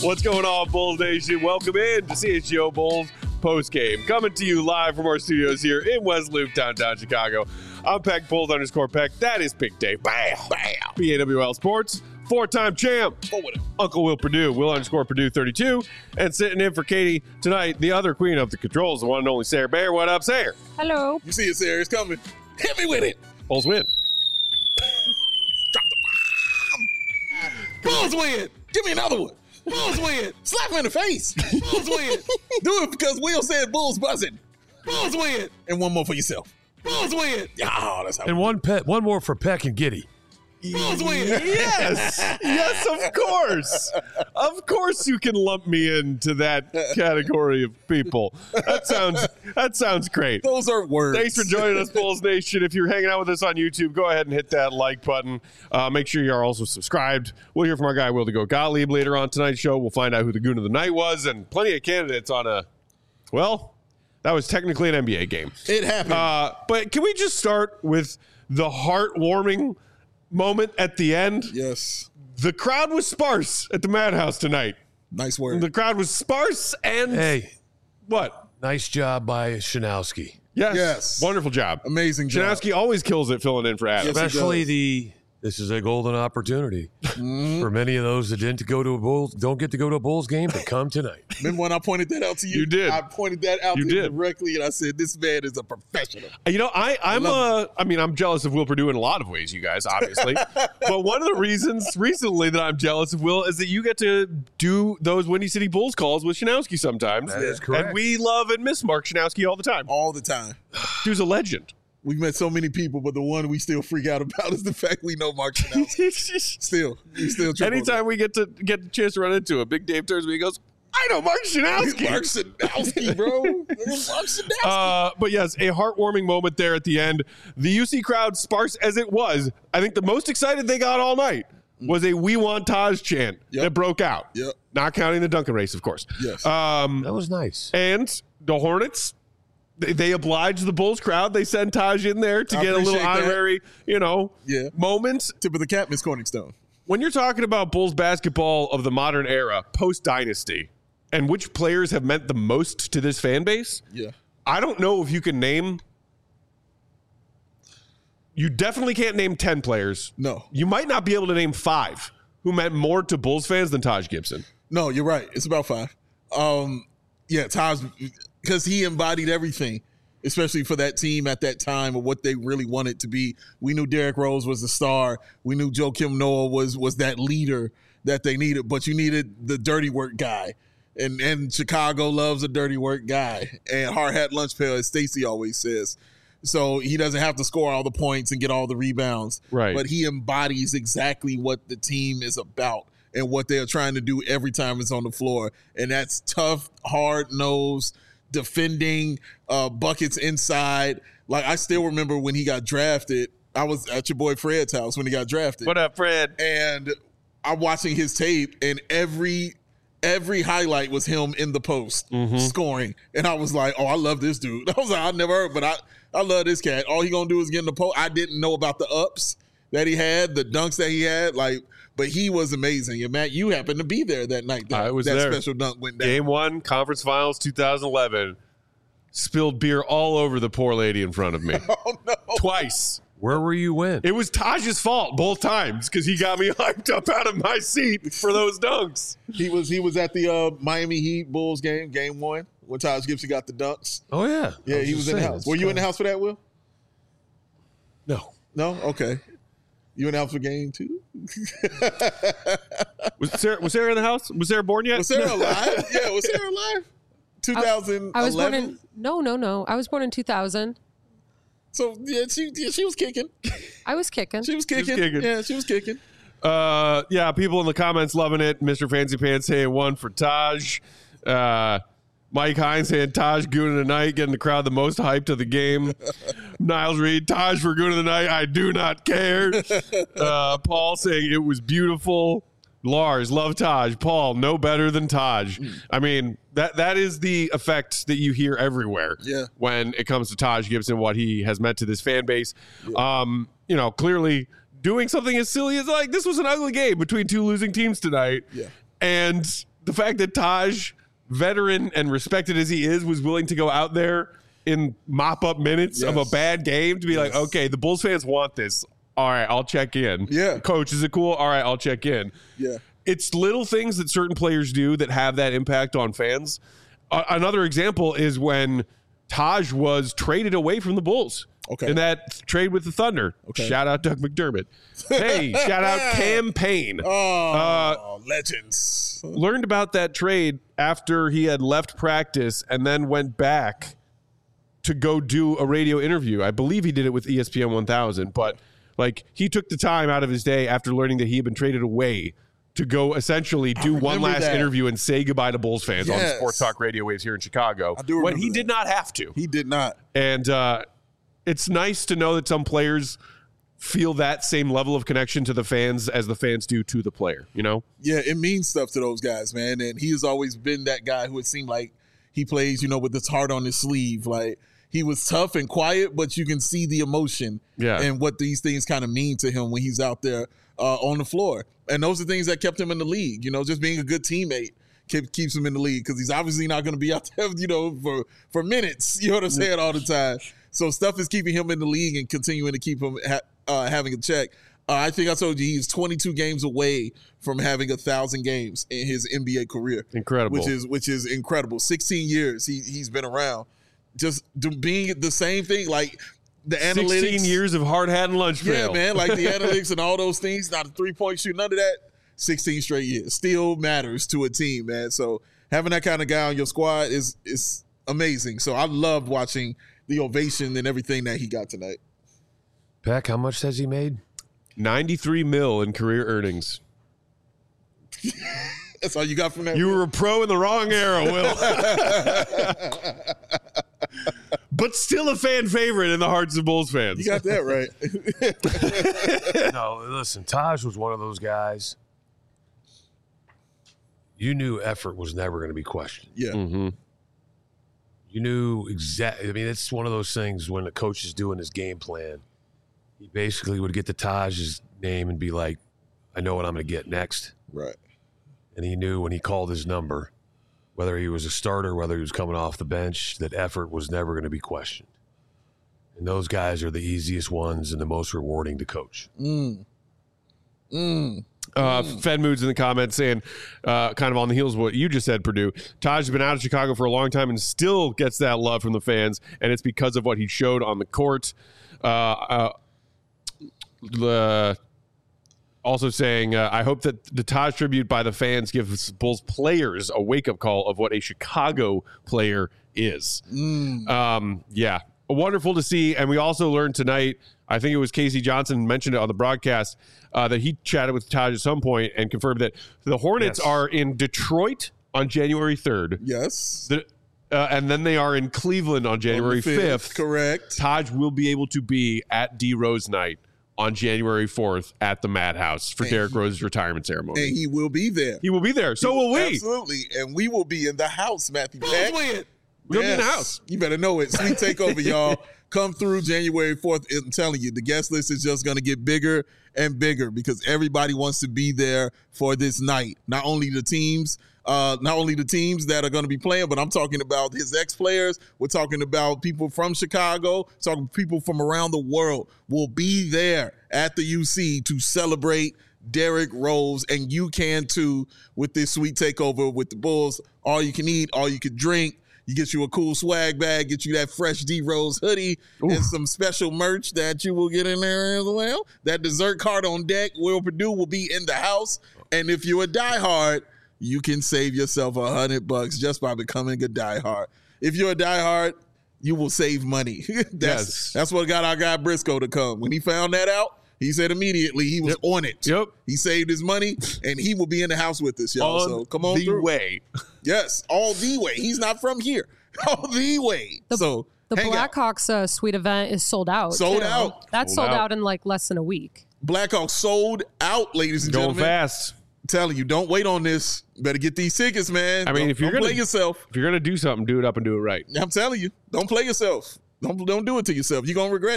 What's going on, Bulls Nation? Welcome in to CHGO Bulls postgame. Coming to you live from our studios here in West Loop, downtown Chicago. I'm Peck, Bulls_Peck. That is Big Dave. Bam! Bam! BAWL Sports. Four-time champ. Uncle Will Purdue. Will_Purdue 32. And sitting in for Katie tonight, the other queen of the controls, the one and only Sarah Bear. What up, Sarah? Hello. You see it, Sarah. It's coming. Hit me with it. Bulls win. Drop the bomb. Bulls win. Give me another one. Bulls win. Slap him in the face. Bulls win. Do it because Will said Bulls buzzing. Bulls win. And one more for yourself. Bulls win. Oh, that's how. And one more for Peck and Giddy. Bulls win. Yes. Yes, of course. Of course you can lump me into that category of people. That sounds great. Those are words. Thanks for joining us, Bulls Nation. If you're hanging out with us on YouTube, go ahead and hit that like button. Make sure you're also subscribed. We'll hear from our guy, Will to Go Gottlieb, later on tonight's show. We'll find out who the Goon of the Night was, and plenty of candidates on that was technically an NBA game. It happened. But can we just start with the heartwarming moment at the end? Yes. The crowd was sparse at the Madhouse tonight. Nice word. The crowd was sparse and... Hey. What? Nice job by Shanowski. Yes. Wonderful job. Amazing job. Shanowski always kills it filling in for Adam. Yes, Especially this is a golden opportunity for many of those that don't get to go to a Bulls game to come tonight. Remember when I pointed that out to you? You did. I pointed that out to you directly, and I said, this man is a professional. You know, I'm jealous of Will Purdue in a lot of ways, you guys, obviously. But one of the reasons recently that I'm jealous of Will is that you get to do those Windy City Bulls calls with Shanowski sometimes. That is correct. And we love and miss Mark Shanowski all the time. All the time. Dude's a legend. We've met so many people, but the one we still freak out about is the fact we know Mark Shanowski. We still triple. Anytime we get a chance to run into him, Big Dave turns to me and goes, I know Mark Shanowski. Mark Shanowski, bro. Mark Shanowski. But yes, a heartwarming moment there at the end. The UC crowd, sparse as it was, I think the most excited they got all night was a "We Want Taj" chant that broke out. Yep. Not counting the Duncan race, of course. Yes. That was nice. And the Hornets, they obliged the Bulls crowd. They sent Taj in there to get a little honorary, moment. Tip of the cap, Miss Corningstone. When you're talking about Bulls basketball of the modern era, post-dynasty, and which players have meant the most to this fan base, I don't know if you can name... You definitely can't name 10 players. No. You might not be able to name 5 who meant more to Bulls fans than Taj Gibson. No, you're right. It's about 5. Taj, because he embodied everything, especially for that team at that time of what they really wanted to be. We knew Derrick Rose was the star. We knew Joakim Noah was that leader that they needed, but you needed the dirty work guy. And Chicago loves a dirty work guy. And hard hat lunch pail, as Stacey always says. So he doesn't have to score all the points and get all the rebounds. Right. But he embodies exactly what the team is about and what they're trying to do every time it's on the floor. And that's tough, hard-nosed, defending, buckets inside. Like, I still remember when he got drafted, I was at your boy Fred's house when he got drafted. What up, Fred? And I'm watching his tape, and every highlight was him in the post scoring. And I was like, oh, I love this dude. I was like, I never heard, but I love this cat. All he going to do is get in the post. I didn't know about the ups that he had, the dunks that he had, but he was amazing. And Matt, you happened to be there that night. I was there. there. That special dunk went down. Game 1, Conference Finals 2011. Spilled beer all over the poor lady in front of me. Oh, no. Twice. Where were you when? It was Taj's fault both times because he got me hyped up out of my seat for those dunks. He was at the Miami Heat Bulls game 1, when Taj Gibson got the dunks. Oh, yeah. Yeah, he was in the house. Were you in the house for that, Will? No. No? Okay. You in the house for game 2? Was Sarah in the house? Was Sarah born yet? Was Sarah alive? Yeah, was Sarah alive? 2011? I was born in... No. I was born in 2000. So, yeah, she was kicking. I was kicking. She was kicking. Yeah, she was kicking. Yeah, people in the comments loving it. Mr. Fancy Pants saying 1 for Taj. Mike Hines saying Taj Goon of the Night, getting the crowd the most hyped of the game. Niles Reed, Taj for Goon of the Night, I do not care. Paul saying it was beautiful. Lars, love Taj. Paul, no better than Taj. I mean, that is the effect that you hear everywhere when it comes to Taj Gibson, what he has meant to this fan base. Yeah. Clearly doing something as silly as this was an ugly game between two losing teams tonight. Yeah. And the fact that Taj, veteran and respected as he is, was willing to go out there in mop-up minutes of a bad game to be like, okay, the Bulls fans want this. All right, I'll check in. Yeah. Coach, is it cool? All right, I'll check in. Yeah. It's little things that certain players do that have that impact on fans. Another example is when Taj was traded away from the Bulls. Okay. In that trade with the Thunder. Okay. Shout out Doug McDermott. Hey, shout out Cam Payne. Legends. Learned about that trade after he had left practice and then went back to go do a radio interview. I believe he did it with ESPN 1000, but like he took the time out of his day after learning that he had been traded away to go essentially do one last interview and say goodbye to Bulls fans on Sports Talk Radio Waves here in Chicago. I do remember when he did not have to. He did not. And it's nice to know that some players feel that same level of connection to the fans as the fans do to the player, you know? Yeah, it means stuff to those guys, man. And he has always been that guy who it seemed like he plays, you know, with his heart on his sleeve. Like, he was tough and quiet, but you can see the emotion and what these things kind of mean to him when he's out there on the floor. And those are things that kept him in the league, you know, just being a good teammate. Keeps him in the league because he's obviously not going to be out there, you know, for minutes. You know what I'm saying? All the time. So stuff is keeping him in the league and continuing to keep him having a check. I think I told you he's 22 games away from having 1,000 games in his NBA career. Incredible. Which is incredible. 16 years he's been around, just being the same thing. Like the analytics. 16 years of hard hat and lunch pail. Yeah, man. Like the analytics and all those things. Not a 3-point shoot. None of that. 16 straight years still matters to a team, man. So having that kind of guy on your squad is amazing. So I loved watching the ovation and everything that he got tonight. Peck, how much has he made? $93 million in career earnings. That's all you got from that? You were a pro in the wrong era, Will. But still a fan favorite in the hearts of Bulls fans. You got that right. No, listen, Taj was one of those guys. You knew effort was never going to be questioned. Yeah. Mm-hmm. You knew exactly. I mean, it's one of those things when the coach is doing his game plan. He basically would get to Taj's name and be like, I know what I'm going to get next. Right. And he knew when he called his number, whether he was a starter, whether he was coming off the bench, that effort was never going to be questioned. And those guys are the easiest ones and the most rewarding to coach. Fed Moods in the comments saying, kind of on the heels of what you just said, Purdue, Taj has been out of Chicago for a long time and still gets that love from the fans, and it's because of what he showed on the court. Also saying, I hope that the Taj tribute by the fans gives Bulls players a wake-up call of what a Chicago player is. Yeah, wonderful to see. And we also learned tonight, I think it was Casey Johnson mentioned it on the broadcast, that he chatted with Taj at some point and confirmed that the Hornets are in Detroit on January 3rd. Yes. And then they are in Cleveland on January 5th. Correct. Taj will be able to be at D Rose night on January 4th at the Madhouse for Derrick Rose's retirement ceremony. And he will be there. He will be there. So will we. Absolutely. And we will be in the house, Matthew. We'll be in the house. You better know it. Sweet takeover, y'all. Come through January 4th. I'm telling you, the guest list is just going to get bigger and bigger because everybody wants to be there for this night. Not only the teams that are going to be playing, but I'm talking about his ex-players. We're talking about people from Chicago, talking people from around the world will be there at the UC to celebrate Derrick Rose, and you can too with this sweet takeover with the Bulls. All you can eat, all you can drink. You get you a cool swag bag, get you that fresh D Rose hoodie, and some special merch that you will get in there as well. That dessert card on deck. Will Purdue will be in the house, and if you're a diehard, you can save yourself $100 just by becoming a diehard. If you're a diehard, you will save money. That's what got our guy Briscoe to come. When he found that out, he said immediately he was on it. Yep. He saved his money, and he will be in the house with us, y'all. So come on through. Way. Yes, all the way. He's not from here. All the way. The Blackhawks suite event is sold out. Sold too. out. That's sold out in like less than a week. Blackhawks sold out, ladies and Going gentlemen. fast. I'm telling you, don't wait on this. Better get these tickets, man. I mean, if you're don't gonna play yourself, if you're gonna do something, do it up and do it right. I'm telling you, don't play yourself. Don't do it to yourself. You're gonna regret it.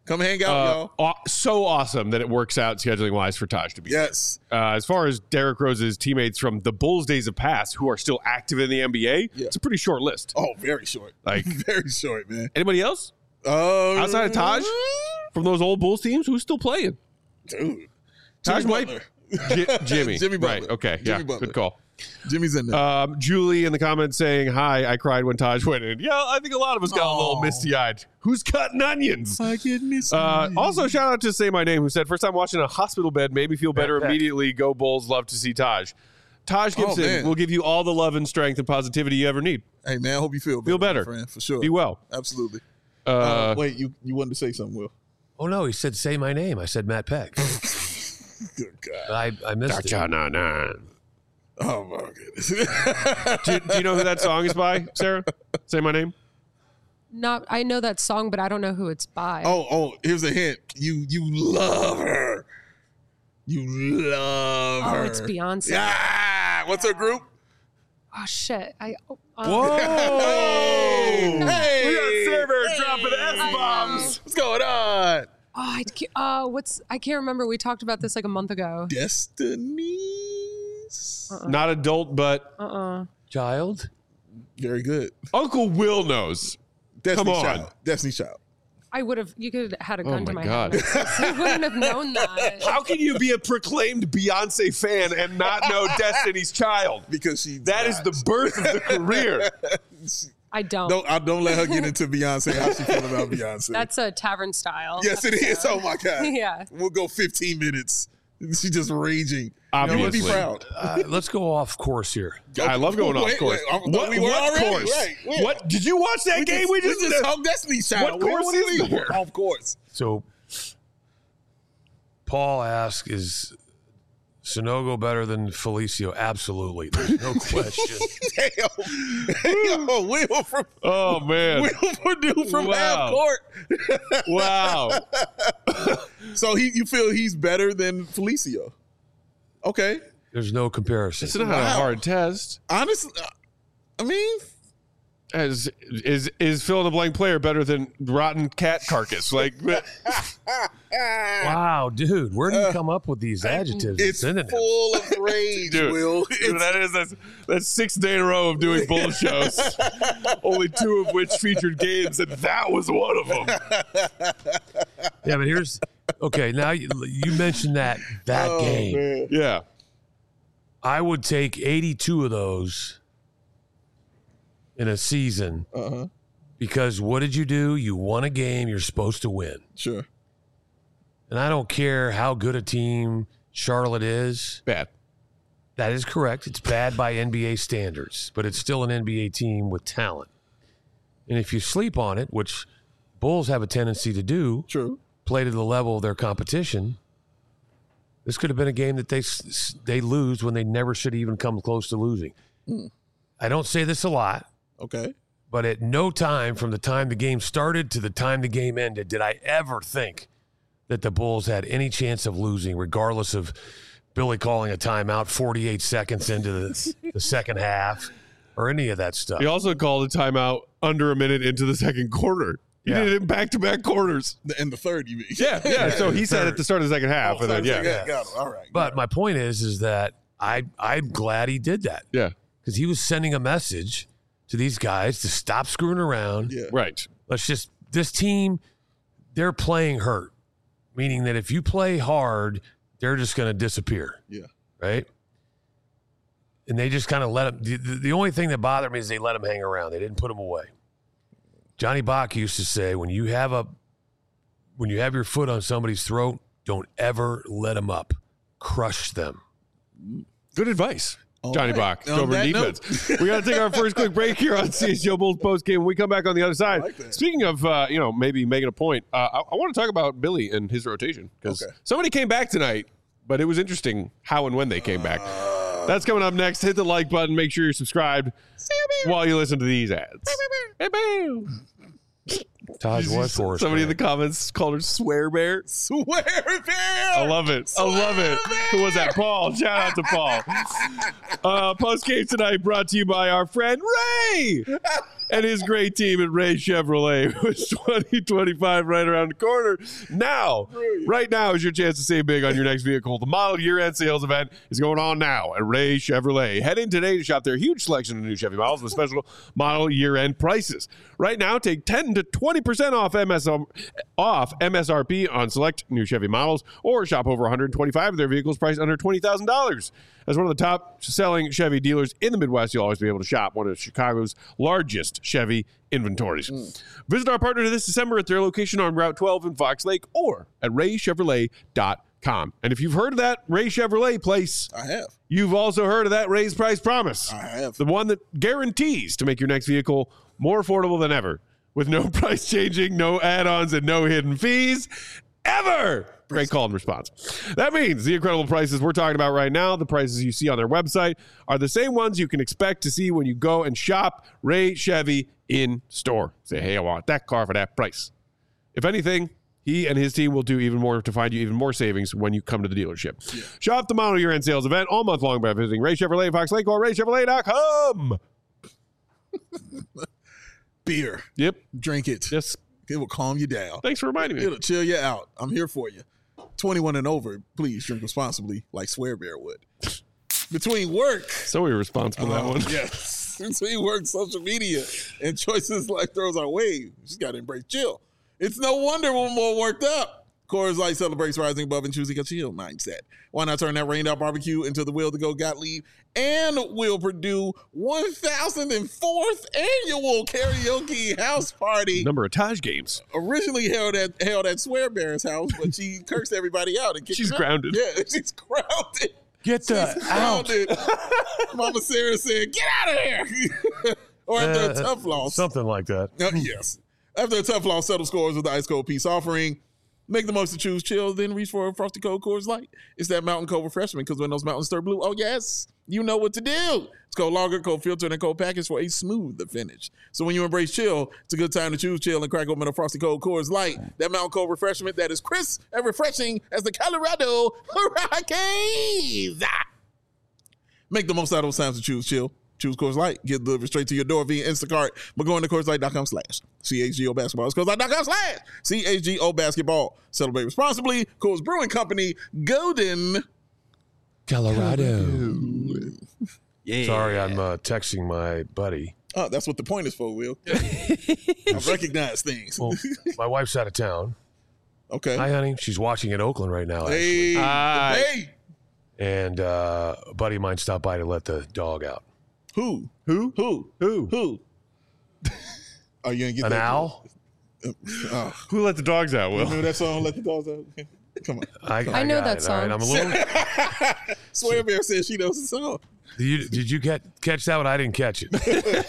Come hang out, y'all. So awesome that it works out scheduling wise for Taj to be. Yes. As far as Derrick Rose's teammates from the Bulls days of past who are still active in the NBA, it's a pretty short list. Oh, very short. Like very short, man. Anybody else outside of Taj from those old Bulls teams who's still playing? Dude, Taj might. Jimmy Jimmy Butler. Right. Okay. Jimmy Yeah. Butler. Good call. Jimmy's in there. Julie in the comments saying, "Hi, I cried when Taj went in." Yeah, I think a lot of us got a little misty-eyed. Who's cutting onions? I get misty. Also, shout out to Say My Name, who said, "First time watching a hospital bed, made me feel better immediately. Go Bulls, love to see Taj." Taj Gibson will give you all the love and strength and positivity you ever need. Hey, man, I hope you feel better, friend, for sure. Be well. Absolutely. Wait, you wanted to say something, Will? Oh, no, he said, say my name. I said Matt Peck. Good God. I missed it. Oh, my goodness. Do you know who that song is by, Sarah? Say My Name? I know that song, but I don't know who it's by. Oh, here's a hint. You love her. You love her. Oh, it's Beyonce. Yeah. What's her group? Oh, shit. Whoa! Hey! We got Sarah dropping S-bombs. What's going on? I can't remember. We talked about this like a month ago. Destiny's. Not adult, but Child? Very good. Uncle Will knows. Destiny Come on. Child. Destiny Child. You could have had a gun to my my God. head. You wouldn't have known that. How can you be a proclaimed Beyonce fan and not know Destiny's Child? Because that is the birth of the career. I don't. Don't let her get into Beyonce. How she feel about Beyonce? That's a tavern style. Yes, it is. Oh my God. Yeah. We'll go 15 minutes. She's just raging. Obviously. You would be proud. Let's go off course here. I love going off course. What course? Right. What did you watch that game? We just talked Destiny's Child. What course is there? Off course. So Paul asks, is Sonogo better than Felicio? Absolutely. There's no question. Damn. Will from Purdue from half court. Wow. So you feel he's better than Felicio? Okay. There's no comparison. It's not a hard test. Honestly, I mean, is fill in the blank player better than rotten cat carcass? Like, wow, dude, where do you come up with these adjectives? It's full of rage, dude, Will. Dude, that's 6th day in a row of doing bull shows. Only 2 of which featured games, and that was one of them. Yeah, but now you mentioned that game. Man. Yeah. I would take 82 of those in a season because what did you do? You won a game you're supposed to win. Sure. And I don't care how good a team Charlotte is. Bad. That is correct. It's bad by NBA standards, but it's still an NBA team with talent. And if you sleep on it, which Bulls have a tendency to do, true, play to the level of their competition, this could have been a game that they lose when they never should have even come close to losing. I don't say this a lot. Okay. But at no time from the time the game started to the time the game ended did I ever think that the Bulls had any chance of losing, regardless of Billy calling a timeout 48 seconds into the second half or any of that stuff. He also called a timeout under a minute into the second quarter. He did it in back-to-back quarters. In the third, you mean? Yeah. So he said at the start of the second half. And then, got it. All right. But my point is that I'm glad he did that. Yeah. Because he was sending a message to these guys to stop screwing around. Yeah. Right. This team, they're playing hurt, meaning that if you play hard, they're just going to disappear. Yeah. Right? And they just kind of let them. The only thing that bothered me is they let them hang around. They didn't put them away. Johnny Bach used to say, when you have your foot on somebody's throat, don't ever let them up. Crush them. Good advice. Johnny Bach, On over that defense. We got to take our first quick break here on CHGO Bulls postgame. When we come back on the other side. Speaking of, maybe making a point, I want to talk about Billy and his rotation because somebody came back tonight, but it was interesting how and when they came back. That's coming up next. Hit the like button. Make sure you're subscribed while you listen to these ads. Taj was for us. Somebody in the comments called her Swear Bear. Swear Bear. I love it. Who was that? Paul. Shout out to Paul. Post game tonight brought to you by our friend Ray. and his great team at Ray Chevrolet with 2025 right around the corner. Now, right now is your chance to save big on your next vehicle. The model year-end sales event is going on now at Ray Chevrolet. Head in today to shop their huge selection of new Chevy models with special model year-end prices. Right now, take 10 to 20% off MSRP on select new Chevy models, or shop over 125 of their vehicles priced under $20,000. As one of the top-selling Chevy dealers in the Midwest, you'll always be able to shop one of Chicago's largest Chevy inventories. Visit our partner this December at their location on Route 12 in Fox Lake or at raychevrolet.com. And if you've heard of that Ray Chevrolet place, I have. you've also heard of that Ray's Price Promise. I have. The one that guarantees to make your next vehicle more affordable than ever, with no price changing, no add-ons, and no hidden fees ever. Great call and response. That means the incredible prices we're talking about right now, the prices you see on their website, are the same ones you can expect to see when you go and shop Ray Chevy in store. Say, hey, I want that car for that price. If anything, he and his team will do even more to find you even more savings when you come to the dealership. Yeah. Shop the model year-end sales event all month long by visiting Ray Chevrolet in Fox Lake or raychevrolet.com. Beer. Yep. Drink it. Yes. It will calm you down. Thanks for reminding me. It'll chill you out. I'm here for you. 21 and over, please drink responsibly like Swear Bear would. Between work. So irresponsible, that one. Yes. Between work, social media, and choices life throws our way, you just got to embrace chill. It's no wonder we're more worked up. Coors Light celebrates rising above and choosing a chill mindset. Why not turn that rained out barbecue into the Will to Go Gottlieb and Will Purdue 1004th annual karaoke house party? Number of Taj games. Originally held at Swear Bear's house, but she cursed everybody out. And she's grounded. Yeah, she's grounded. Get out. Mama Sarah said, get out of here. Or after a tough loss. Something like that. Yes. After a tough loss, settle scores with the Ice Cold Peace offering. Make the most to choose chill, then reach for a Frosty Cold Coors Light. It's that Mountain Cold refreshment, because when those mountains turn blue, oh yes, you know what to do. It's cold lager, cold filter, and cold package for a smooth finish. So when you embrace chill, it's a good time to choose chill and crack open a Frosty Cold Coors Light. That Mountain Cold refreshment that is crisp and refreshing as the Colorado Rockies. Make the most out of those times to choose chill. Choose Coors Light. Get delivered straight to your door via Instacart. But go into CoorsLight.com/CHGO Basketball. It's CoorsLight.com/CHGO Basketball. Celebrate responsibly. Coors Brewing Company, Golden, Colorado. Yeah. Sorry, I'm texting my buddy. Oh, that's what the point is for, Will. I recognize things. Well, my wife's out of town. Okay. Hi, honey. She's watching in Oakland right now. Actually. Hey. And a buddy of mine stopped by to let the dog out. Who? Are you gonna get an owl? Who let the dogs out? Will? You know that song, "Let the Dogs Out"? Come on. I know that song. Right, I'm a little. Swear Bear says she knows the song. Did you catch that one? I didn't catch it.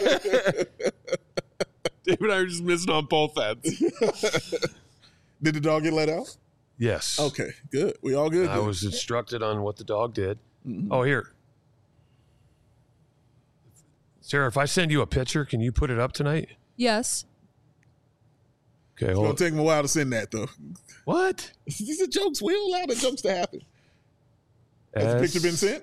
Dave and I are just missing on both ends. Did the dog get let out? Yes. Okay, good. We all good. I was instructed on what the dog did. Mm-hmm. Oh, here. Sarah, if I send you a picture, can you put it up tonight? Yes. Okay, hold on. It's going to take him a while to send that, though. What? These are jokes. We allow the jokes to happen. Has the picture been sent?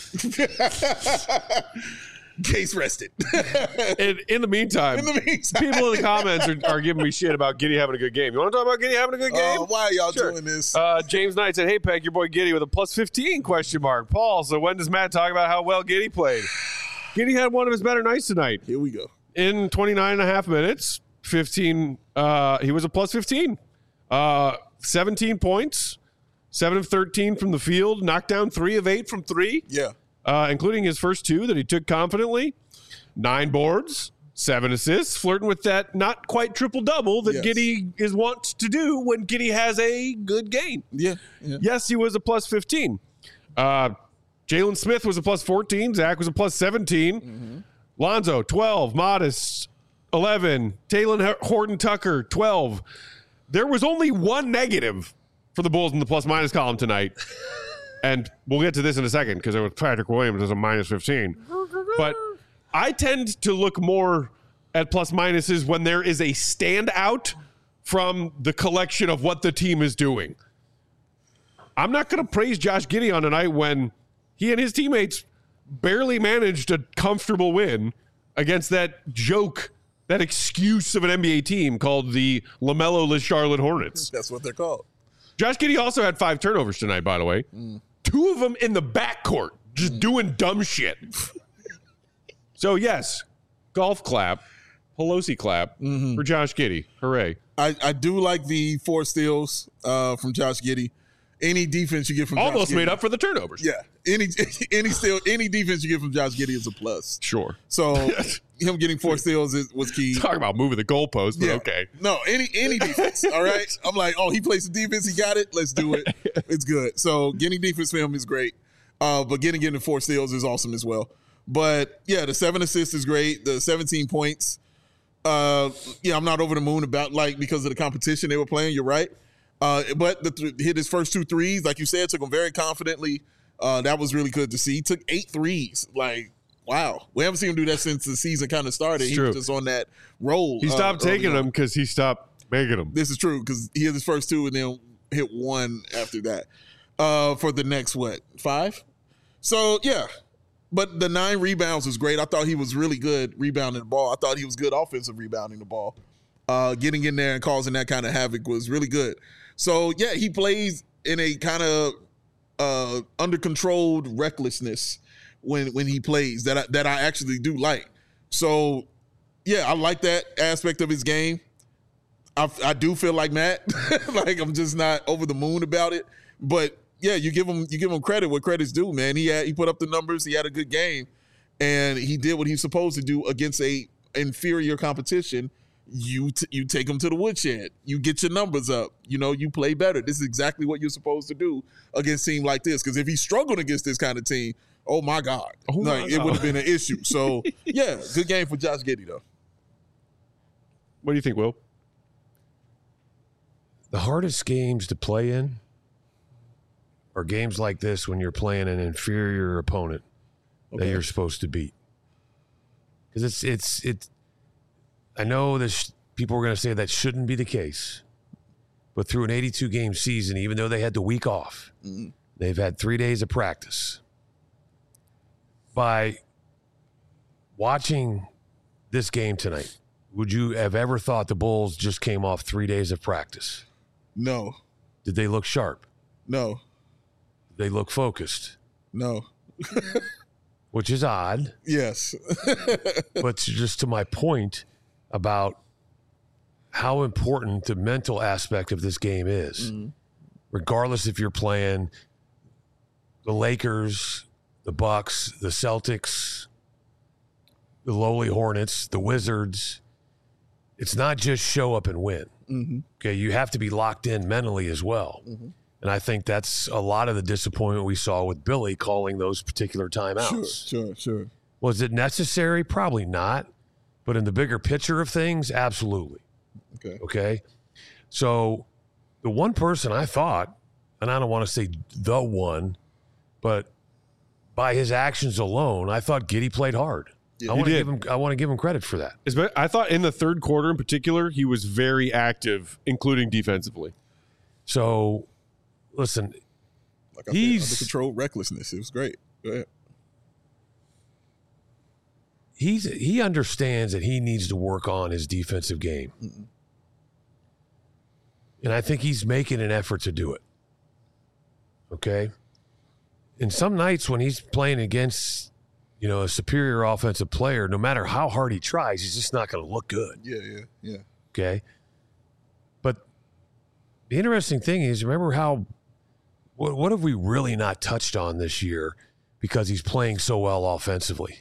Case rested. In the meantime, people in the comments are giving me shit about Giddy having a good game. You want to talk about Giddy having a good game? Why are y'all doing this? James Knight said, hey, Peck, your boy Giddy with a +15 question mark. Paul, so when does Matt talk about how well Giddy played? Giddy had one of his better nights tonight. Here we go. In 29 and a half minutes, 15. He was a +15. 17 points, 7 of 13 from the field, knocked down 3 of 8 from 3. Yeah. Including his first 2 that he took confidently. 9 boards, 7 assists, flirting with that not quite triple-double that Giddy is wont to do when Giddy has a good game. Yeah. Yes, he was a +15. Jalen Smith was a +14. Zach was a +17. Mm-hmm. Lonzo, 12. Modest, 11. Taylor Horton-Tucker, 12. There was only one negative for the Bulls in the plus-minus column tonight. And we'll get to this in a second because it was Patrick Williams as a -15. But I tend to look more at plus-minuses when there is a standout from the collection of what the team is doing. I'm not going to praise Josh Giddey on a night when he and his teammates barely managed a comfortable win against that that excuse of an NBA team called the LaMelo-less Charlotte Hornets. That's what they're called. Josh Giddey also had 5 turnovers tonight, by the way. 2 of them in the backcourt, just doing dumb shit. So, yes, golf clap, Pelosi clap for Josh Giddey. Hooray. I do like the 4 steals from Josh Giddey. Any defense you get from Almost Josh Giddey, made up for the turnovers. Yeah. Any defense you get from Josh Giddey is a plus. Sure. So him getting 4 steals was key. Talk about moving the goalpost, but Yeah. okay. No, any defense. All right. I'm like, oh, he plays the defense. He got it. Let's do it. It's good. So getting defense for him is great. But getting 4 steals is awesome as well. But yeah, the 7 assists is great. The 17 points. Yeah, I'm not over the moon about because of the competition they were playing. You're right. But hit his first 2 threes, like you said, took them very confidently. That was really good to see. He took 8 threes. Like, wow. We haven't seen him do that since the season kind of started. He was just on that roll. He stopped taking them because he stopped making them. This is true because he hit his first 2 and then hit 1 after that for the next, 5? So, yeah. But the 9 rebounds was great. I thought he was really good rebounding the ball. I thought he was good offensive rebounding the ball. Getting in there and causing that kind of havoc was really good. So, yeah, he plays in a kind of under-controlled recklessness when he plays that I actually do like. So, yeah, I like that aspect of his game. I do feel like Matt. Like, I'm just not over the moon about it. But, yeah, you give him credit where credit's due, man. He put up the numbers. He had a good game. And he did what he's supposed to do against a inferior competition. You take them to the woodshed. You get your numbers up. You play better. This is exactly what you're supposed to do against a team like this. Because if he struggled against this kind of team, oh my God, it would have been an issue. So yeah, good game for Josh Giddey though. What do you think, Will? The hardest games to play in are games like this when you're playing an inferior opponent that you're supposed to beat. Because it's. I know people are going to say that shouldn't be the case, but through an 82-game season, even though they had the week off, they've had 3 days of practice. By watching this game tonight, would you have ever thought the Bulls just came off 3 days of practice? No. Did they look sharp? No. Did they look focused? No. Which is odd. Yes. But just to my point about how important the mental aspect of this game is, regardless if you're playing the Lakers, the Bucks, the Celtics, the lowly Hornets, the Wizards. It's not just show up and win. Okay, you have to be locked in mentally as well. And I think that's a lot of the disappointment we saw with Billy calling those particular timeouts. Sure. Was it necessary? Probably not. But in the bigger picture of things, absolutely. Okay. So the one person I thought, and I don't want to say the one, but by his actions alone, I thought Giddey played hard. Yeah, I want to give him credit for that. I thought in the third quarter in particular, he was very active, including defensively. So, listen, like I said, under controlled recklessness. It was great. Go ahead. He understands that he needs to work on his defensive game. And I think he's making an effort to do it. Okay? And some nights when he's playing against, a superior offensive player, no matter how hard he tries, he's just not going to look good. Yeah. Okay? But the interesting thing is, remember what have we really not touched on this year because he's playing so well offensively?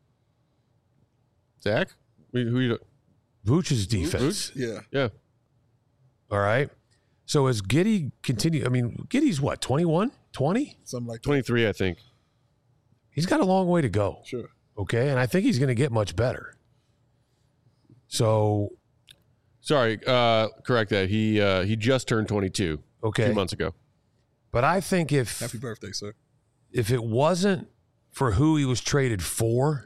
Zach? Who you? Vooch's defense. Vooch? Yeah. All right. So as Giddey continue, Giddey's what, 21, 20? Something like that. 23, I think. He's got a long way to go. Sure. Okay. And I think he's going to get much better. So. Sorry, correct that. He just turned 22 a few months ago. But I think Happy birthday, sir. If it wasn't for who he was traded for,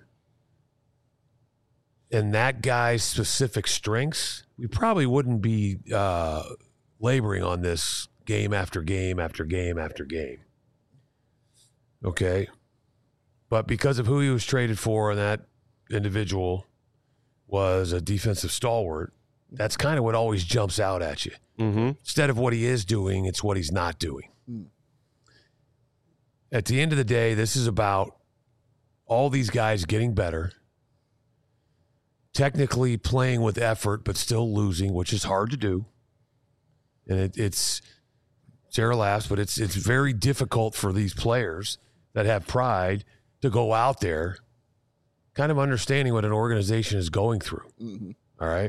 and that guy's specific strengths, we probably wouldn't be laboring on this game after game after game after game. Okay? But because of who he was traded for and that individual, was a defensive stalwart, that's kind of what always jumps out at you. Mm-hmm. Instead of what he is doing, it's what he's not doing. At the end of the day, this is about all these guys getting better, technically playing with effort, but still losing, which is hard to do. And it's Sarah laughs, but it's very difficult for these players that have pride to go out there kind of understanding what an organization is going through. Mm-hmm. All right.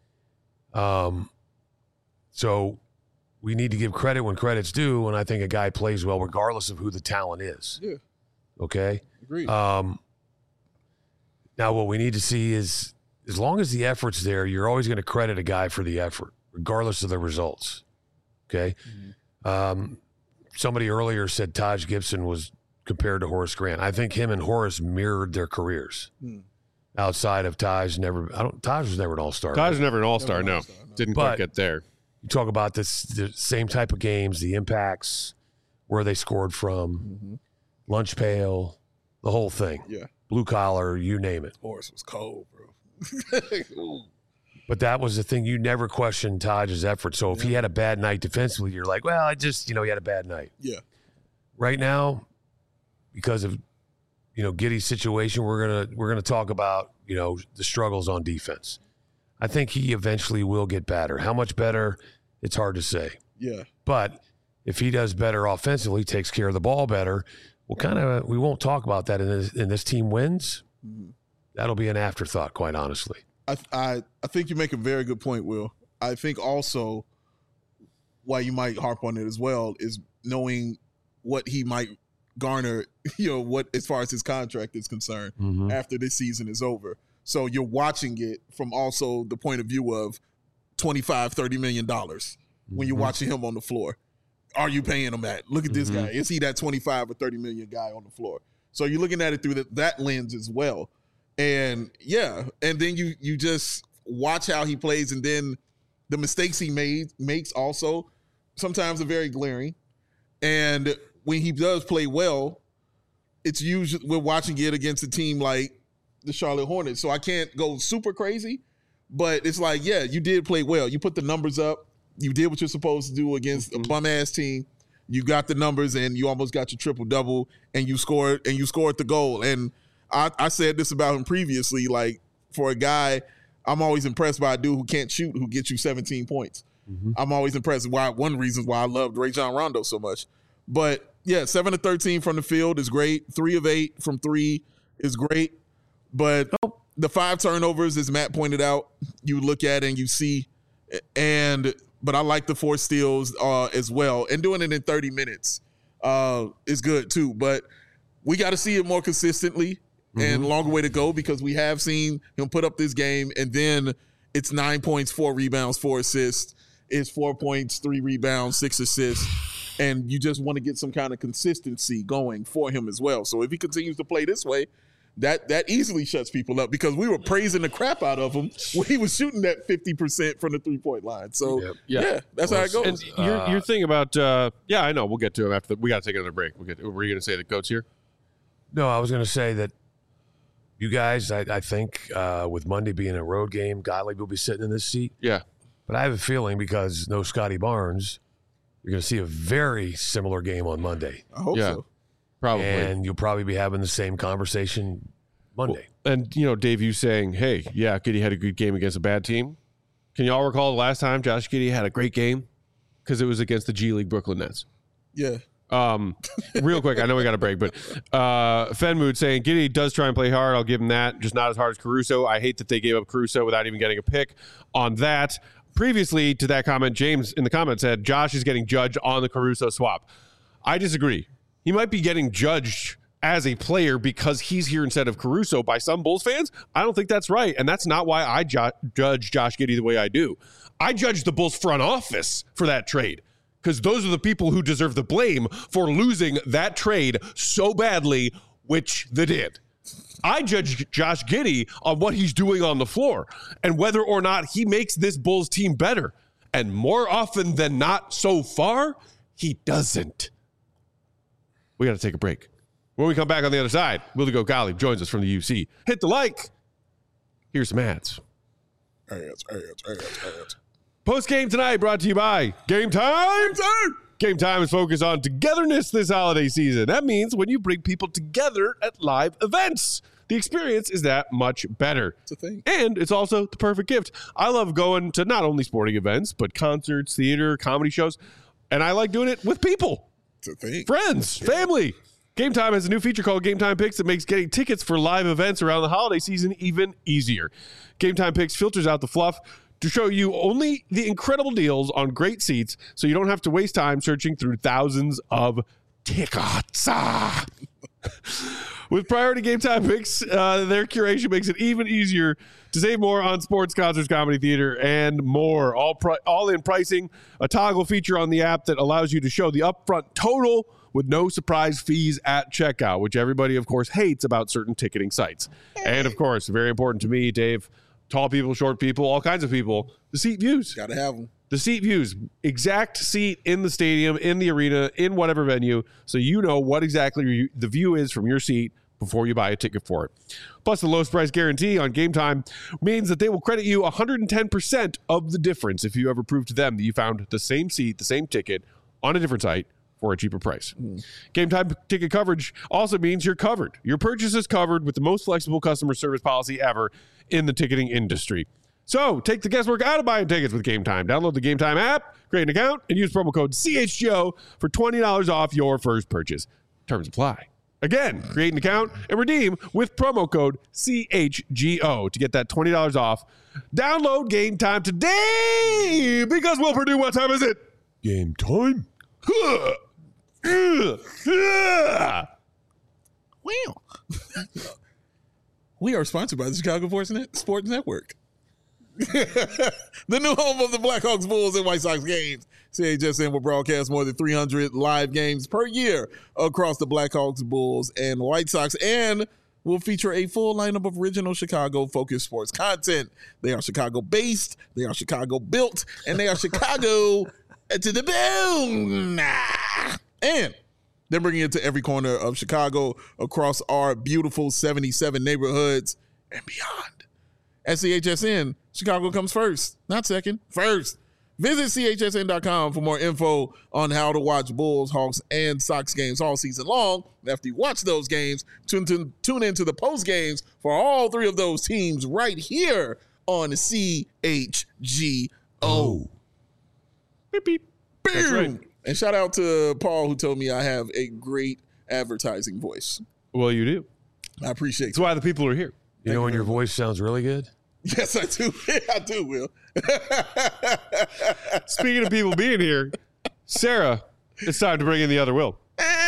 So we need to give credit when credit's due, and I think a guy plays well regardless of who the talent is. Yeah. Okay? Agreed. Now what we need to see is, as long as the effort's there, you're always going to credit a guy for the effort, regardless of the results. Okay? Somebody earlier said Taj Gibson was compared to Horace Grant. I think him and Horace mirrored their careers. Outside of Taj, Taj was never an all-star. Taj was never an all-star, no. Didn't quite But- get there. You talk about the same type of games, the impacts, where they scored from, lunch pail, the whole thing. Yeah. Blue collar, you name it. Horace was cold, bro. But that was the thing. You never questioned Taj's effort. So if he had a bad night defensively, you're like, well, he had a bad night. Yeah. Right now, because of Giddey's situation, we're gonna talk about the struggles on defense. I think he eventually will get better. How much better? It's hard to say. Yeah. But if he does better offensively, takes care of the ball better, we won't talk about that in this team wins. That'll be an afterthought, quite honestly. I think you make a very good point, Will. I think also why you might harp on it as well is knowing what he might garner, what as far as his contract is concerned after this season is over. So you're watching it from also the point of view of $25-30 million when you're watching him on the floor. Are you paying him that? Look at this guy. Is he that 25 or 30 million guy on the floor? So you're looking at it through that lens as well. And and then you just watch how he plays, and then the mistakes he makes also sometimes are very glaring. And when he does play well, it's usually we're watching it against a team like the Charlotte Hornets. So I can't go super crazy, but it's like, you did play well. You put the numbers up. You did what you're supposed to do against a bum-ass team. You got the numbers, and you almost got your triple-double, and you scored the goal. And I said this about him previously, like, for a guy, I'm always impressed by a dude who can't shoot, who gets you 17 points. I'm always impressed. One reason why I loved Rajon Rondo so much. But, 7 of 13 from the field is great. 3 of 8 from 3 is great. But the 5 turnovers, as Matt pointed out, you look at and you see, but I like the 4 steals as well. And doing it in 30 minutes is good too. But we got to see it more consistently and longer way to go, because we have seen him put up this game, and then it's 9 points, 4 rebounds, 4 assists. It's 4 points, 3 rebounds, 6 assists. And you just want to get some kind of consistency going for him as well. So if he continues to play this way, that easily shuts people up, because we were praising the crap out of him when he was shooting that 50% from the 3-point line. So that's how it goes. And your thing about I know we'll get to him after we got to take another break. Were you going to say the goat's here? No, I was going to say that you guys, I think with Monday being a road game, Gottlieb will be sitting in this seat. Yeah, but I have a feeling, because no Scotty Barnes, you're going to see a very similar game on Monday. I hope so. Probably. And you'll probably be having the same conversation Monday. And, Dave, you saying, hey, Giddey had a good game against a bad team. Can you all recall the last time Josh Giddey had a great game? Because it was against the G League Brooklyn Nets. Yeah. Real quick, I know we got a break, but Fenmood saying Giddey does try and play hard. I'll give him that. Just not as hard as Caruso. I hate that they gave up Caruso without even getting a pick on that. Previously to that comment, James in the comments said Josh is getting judged on the Caruso swap. I disagree. He might be getting judged as a player because he's here instead of Caruso by some Bulls fans. I don't think that's right, and that's not why I judge Josh Giddey the way I do. I judge the Bulls front office for that trade, because those are the people who deserve the blame for losing that trade so badly, which they did. I judge Josh Giddey on what he's doing on the floor and whether or not he makes this Bulls team better. And more often than not so far, he doesn't. We got to take a break. When we come back on the other side, Willie Gottlieb joins us from the UC. Hit the like. Here's some ads. Ads. Post game tonight brought to you by Game Time. Game Time is focused on togetherness this holiday season. That means when you bring people together at live events, the experience is that much better. It's a thing. And it's also the perfect gift. I love going to not only sporting events, but concerts, theater, comedy shows. And I like doing it with people. It's a thing. Friends, family. Game Time has a new feature called Game Time Picks that makes getting tickets for live events around the holiday season even easier. Game Time Picks filters out the fluff to show you only the incredible deals on great seats so you don't have to waste time searching through thousands of tickets. With Priority Game Time Picks, their curation makes it even easier to save more on sports, concerts, comedy, theater, and more. All in pricing, a toggle feature on the app that allows you to show the upfront total with no surprise fees at checkout, which everybody, of course, hates about certain ticketing sites. And, of course, very important to me, Dave, tall people, short people, all kinds of people, the seat views. Got to have them. The seat views, exact seat in the stadium, in the arena, in whatever venue, so you know what exactly the view is from your seat before you buy a ticket for it. Plus, the lowest price guarantee on Game Time means that they will credit you 110% of the difference if you ever prove to them that you found the same seat, the same ticket on a different site for a cheaper price. Game Time ticket coverage also means you're covered. Your purchase is covered with the most flexible customer service policy ever in the ticketing industry. So, take the guesswork out of buying tickets with Game Time. Download the Game Time app, create an account, and use promo code CHGO for $20 off your first purchase. Terms apply. Again, create an account and redeem with promo code CHGO to get that $20 off. Download Game Time today because Will Purdue, what time is it? Game time. Well, we are sponsored by the Chicago Sports Network. The new home of the Blackhawks, Bulls, and White Sox games. CHSN will broadcast more than 300 live games per year across the Blackhawks, Bulls, and White Sox, and will feature a full lineup of original Chicago-focused sports content. They are Chicago-based, they are Chicago-built, and they are Chicago to the bone. And they're bringing it to every corner of Chicago across our beautiful 77 neighborhoods and beyond. At CHSN, Chicago comes first, not second, first. Visit CHSN.com for more info on how to watch Bulls, Hawks, and Sox games all season long. After you watch those games, tune into the post games for all three of those teams right here on CHGO. Beep, beep. That's right. And shout out to Paul, who told me I have a great advertising voice. Well, you do. I appreciate it. That's why the people are here. You know when your voice sounds really good? Yes, I do. I do, Will. Speaking of people being here, Sarah, it's time to bring in the other Will.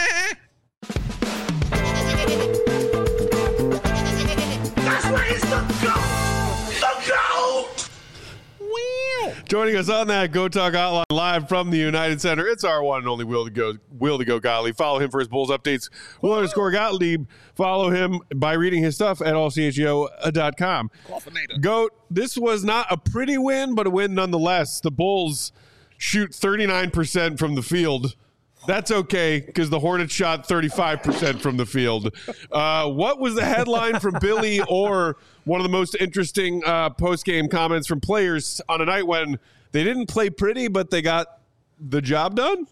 That's where it's the GOAT! The GOAT! Joining us on that Go Talk Hotline live from the United Center, it's our one and only Will to Go Gottlieb. Follow him for his Bulls updates. Will_Gottlieb. Follow him by reading his stuff at allchgo.com. Goat, this was not a pretty win, but a win nonetheless. The Bulls shoot 39% from the field. That's okay, because the Hornets shot 35% from the field. What was the headline from Billy or one of the most interesting post-game comments from players on a night when they didn't play pretty, but they got the job done?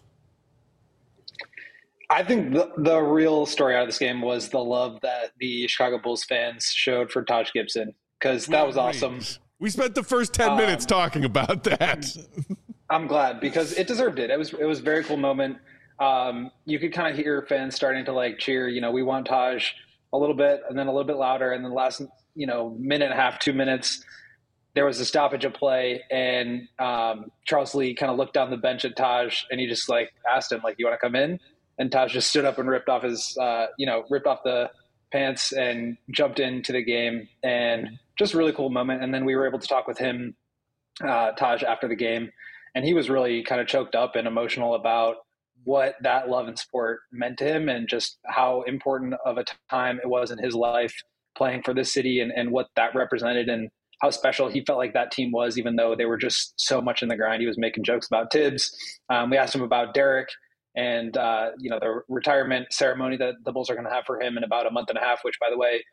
I think the real story out of this game was the love that the Chicago Bulls fans showed for Taj Gibson, because that was awesome. We spent the first 10 minutes talking about that. I'm glad, because it deserved it. It was a very cool moment. You could kind of hear fans starting to like cheer, we want Taj a little bit and then a little bit louder. And then the last, minute and a half, 2 minutes, there was a stoppage of play. And Charles Lee kind of looked down the bench at Taj and he just asked him, you want to come in? And Taj just stood up and ripped off ripped off the pants and jumped into the game, and just a really cool moment. And then we were able to talk with him, Taj, after the game, and he was really kind of choked up and emotional about what that love and sport meant to him and just how important of a time it was in his life playing for this city and what that represented and how special he felt like that team was, even though they were just so much in the grind. He was making jokes about Tibbs. We asked him about Derek and, the retirement ceremony that the Bulls are going to have for him in about a month and a half, which, by the way,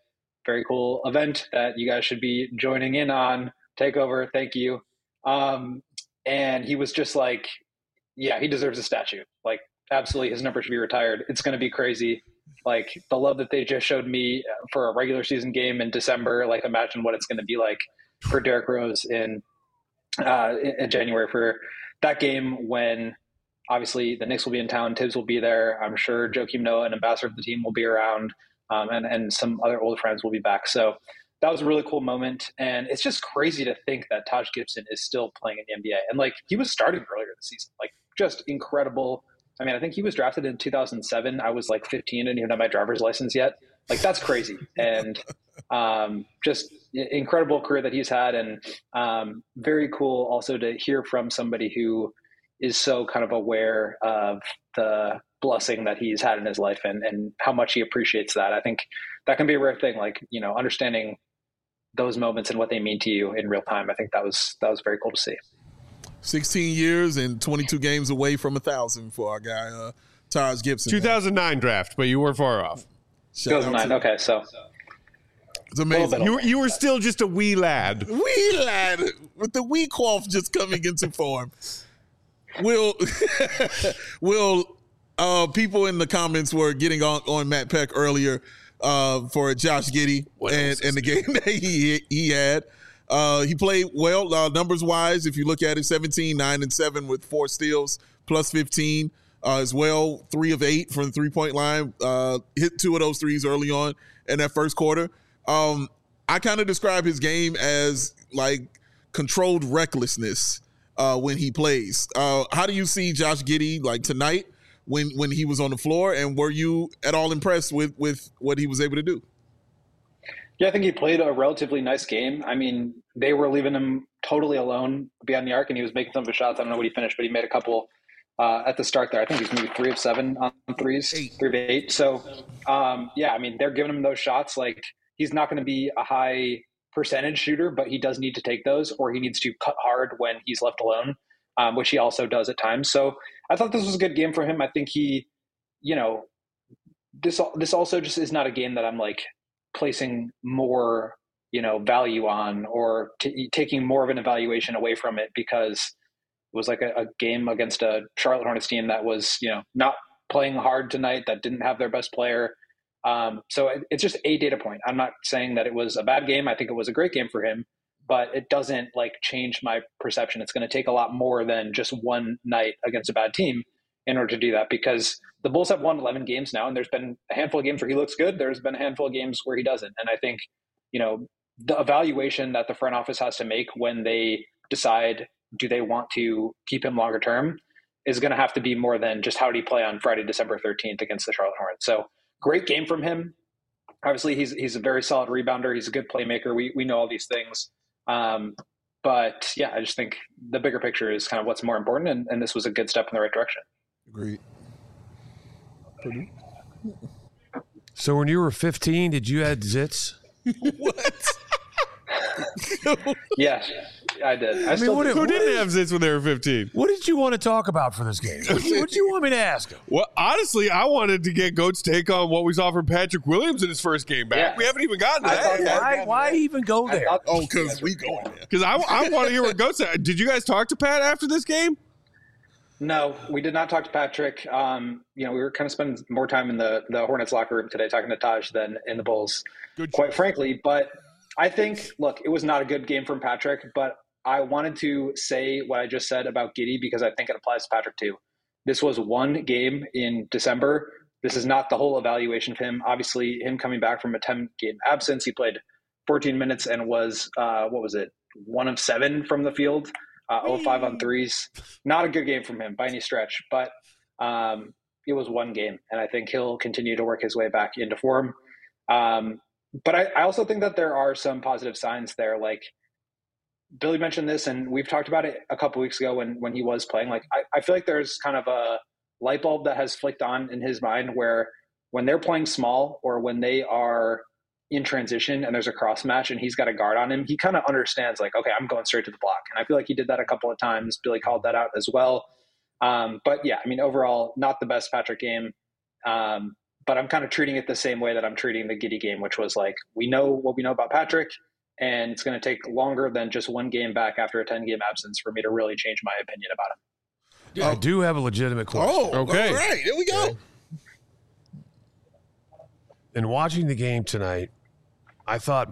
very cool event that you guys should be joining in on. Takeover, thank you. And he was just like, yeah, he deserves a statue. Like, absolutely, his number should be retired. It's going to be crazy. Like, the love that they just showed me for a regular season game in December, like, imagine what it's going to be like for Derrick Rose in January for that game when obviously the Knicks will be in town, Tibbs will be there. I'm sure Joakim Noah, an ambassador of the team, will be around, and some other old friends will be back. So that was a really cool moment. And it's just crazy to think that Taj Gibson is still playing in the NBA. And like, he was starting earlier this season, like just incredible. I mean, I think he was drafted in 2007. I was like 15 and didn't even have my driver's license yet. Like, that's crazy. And just incredible career that he's had. And very cool also to hear from somebody who is so kind of aware of the blessing that he's had in his life and how much he appreciates that. I think that can be a rare thing, like, you know, understanding those moments and what they mean to you in real time. I think that was very cool to see. 16 years and 22 games away from 1,000 for our guy, Taj Gibson. 2009 draft, but you were far off. 2009, okay, so. It's amazing. You were still just a wee lad. Wee lad, with the wee cough just coming into form. Will people in the comments were getting on Matt Peck earlier for Josh Giddey and the game that he had. He played well numbers wise. If you look at it, 17, 9 and 7 with 4 steals, plus 15 as well. 3 of 8 from the 3-point line. Hit 2 of those threes early on in that first quarter. I kind of describe his game as like controlled recklessness when he plays. How do you see Josh Giddey like tonight when he was on the floor, and were you at all impressed with what he was able to do? Yeah, I think he played a relatively nice game. I mean, they were leaving him totally alone beyond the arc, and he was making some of his shots. I don't know what he finished, but he made a couple at the start there. I think he's maybe 3 of 7 on threes, 3 of 8. So, yeah, I mean, they're giving him those shots. Like, he's not going to be a high percentage shooter, but he does need to take those, or he needs to cut hard when he's left alone, which he also does at times. So I thought this was a good game for him. I think he, you know, this also just is not a game that I'm like placing more, you know, value on or taking more of an evaluation away from it, because it was like a game against a Charlotte Hornets team that was, you know, not playing hard tonight, that didn't have their best player. So it's just a data point. I'm not saying that it was a bad game. I think it was a great game for him, but it doesn't like change my perception. It's going to take a lot more than just one night against a bad team in order to do that, because the Bulls have won 11 games now, and there's been a handful of games where he looks good. There's been a handful of games where he doesn't. And I think, you know, the evaluation that the front office has to make when they decide, do they want to keep him longer term, is going to have to be more than just how did he play on Friday, December 13th against the Charlotte Hornets. So great game from him. Obviously he's a very solid rebounder. He's a good playmaker. We know all these things. But yeah, I just think the bigger picture is kind of what's more important. And this was a good step in the right direction. Agreed. So when you were 15, did you add zits? What? Yeah, I did. Who didn't have zits when they were 15? What did you want to talk about for this game? What did you want me to ask him? Well, honestly, I wanted to get Goat's take on what we saw from Patrick Williams in his first game back. Yeah. We haven't even gotten to that yet. Why even go there? Because we going there. Because I want to hear what Goat said. Did you guys talk to Pat after this game? No, we did not talk to Patrick. You know, we were kind of spending more time in the Hornets locker room today talking to Taj than in the Bulls, quite frankly. But I think, look, it was not a good game from Patrick, but I wanted to say what I just said about Giddey because I think it applies to Patrick too. This was one game in December. This is not the whole evaluation of him. Obviously, him coming back from a 10-game absence, he played 14 minutes and was, 1 of 7 from the field, 0-5 on threes. Not a good game from him by any stretch, but it was one game, and I think he'll continue to work his way back into form. But I also think that there are some positive signs there. Like Billy mentioned this, and we've talked about it a couple weeks ago when he was playing. Like I feel like there's kind of a light bulb that has flicked on in his mind where when they're playing small or when they are in transition and there's a cross match and he's got a guard on him, he kind of understands like, okay, I'm going straight to the block. And I feel like he did that a couple of times. Billy called that out as well. But yeah, I mean, overall, not the best Patrick game. but I'm kind of treating it the same way that I'm treating the Giddey game, which was like, we know what we know about Patrick, and it's going to take longer than just one game back after a 10-game absence for me to really change my opinion about him. Yeah, I do have a legitimate question. Oh, Okay. All right. Here we go. Okay. In watching the game tonight, I thought,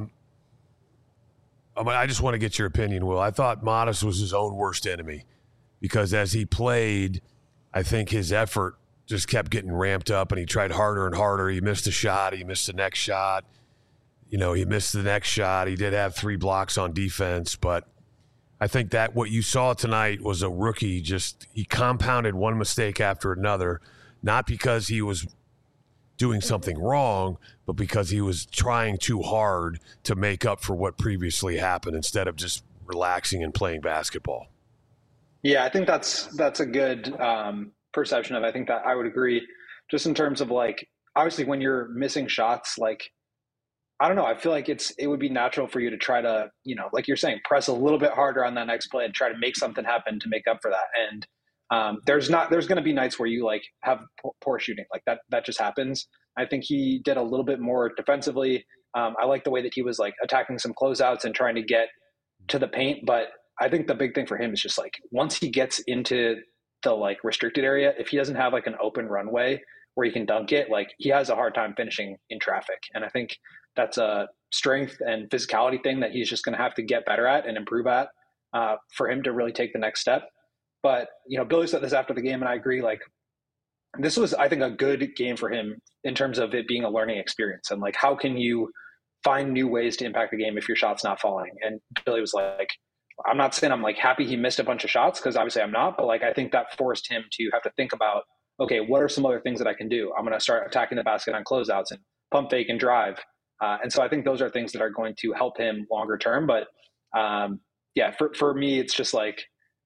I just want to get your opinion, Will. I thought Modest was his own worst enemy because as he played, I think his effort just kept getting ramped up and he tried harder and harder. He missed a shot. He missed the next shot. He missed the next shot. He did have 3 blocks on defense, but I think that what you saw tonight was a rookie. He compounded one mistake after another, not because he was doing something wrong, but because he was trying too hard to make up for what previously happened instead of just relaxing and playing basketball. Yeah, I think that's a good perception of it. I think that I would agree just in terms of like, obviously when you're missing shots, like, I don't know, I feel like it would be natural for you to try to, like you're saying, press a little bit harder on that next play and try to make something happen to make up for that. And there's going to be nights where you like have poor shooting, like that just happens. I think he did a little bit more defensively. I like the way that he was like attacking some closeouts and trying to get to the paint. But I think the big thing for him is just like, once he gets into the like restricted area, if he doesn't have like an open runway where he can dunk it, like he has a hard time finishing in traffic. And I think that's a strength and physicality thing that he's just going to have to get better at and improve at for him to really take the next step. But, Billy said this after the game, and I agree, like, this was, I think, a good game for him in terms of it being a learning experience. And, like, how can you find new ways to impact the game if your shot's not falling? And Billy was like, I'm not saying I'm, like, happy he missed a bunch of shots, because obviously I'm not. But, like, I think that forced him to have to think about, okay, what are some other things that I can do? I'm going to start attacking the basket on closeouts and pump fake and drive. And so I think those are things that are going to help him longer term. But, for me, it's just like,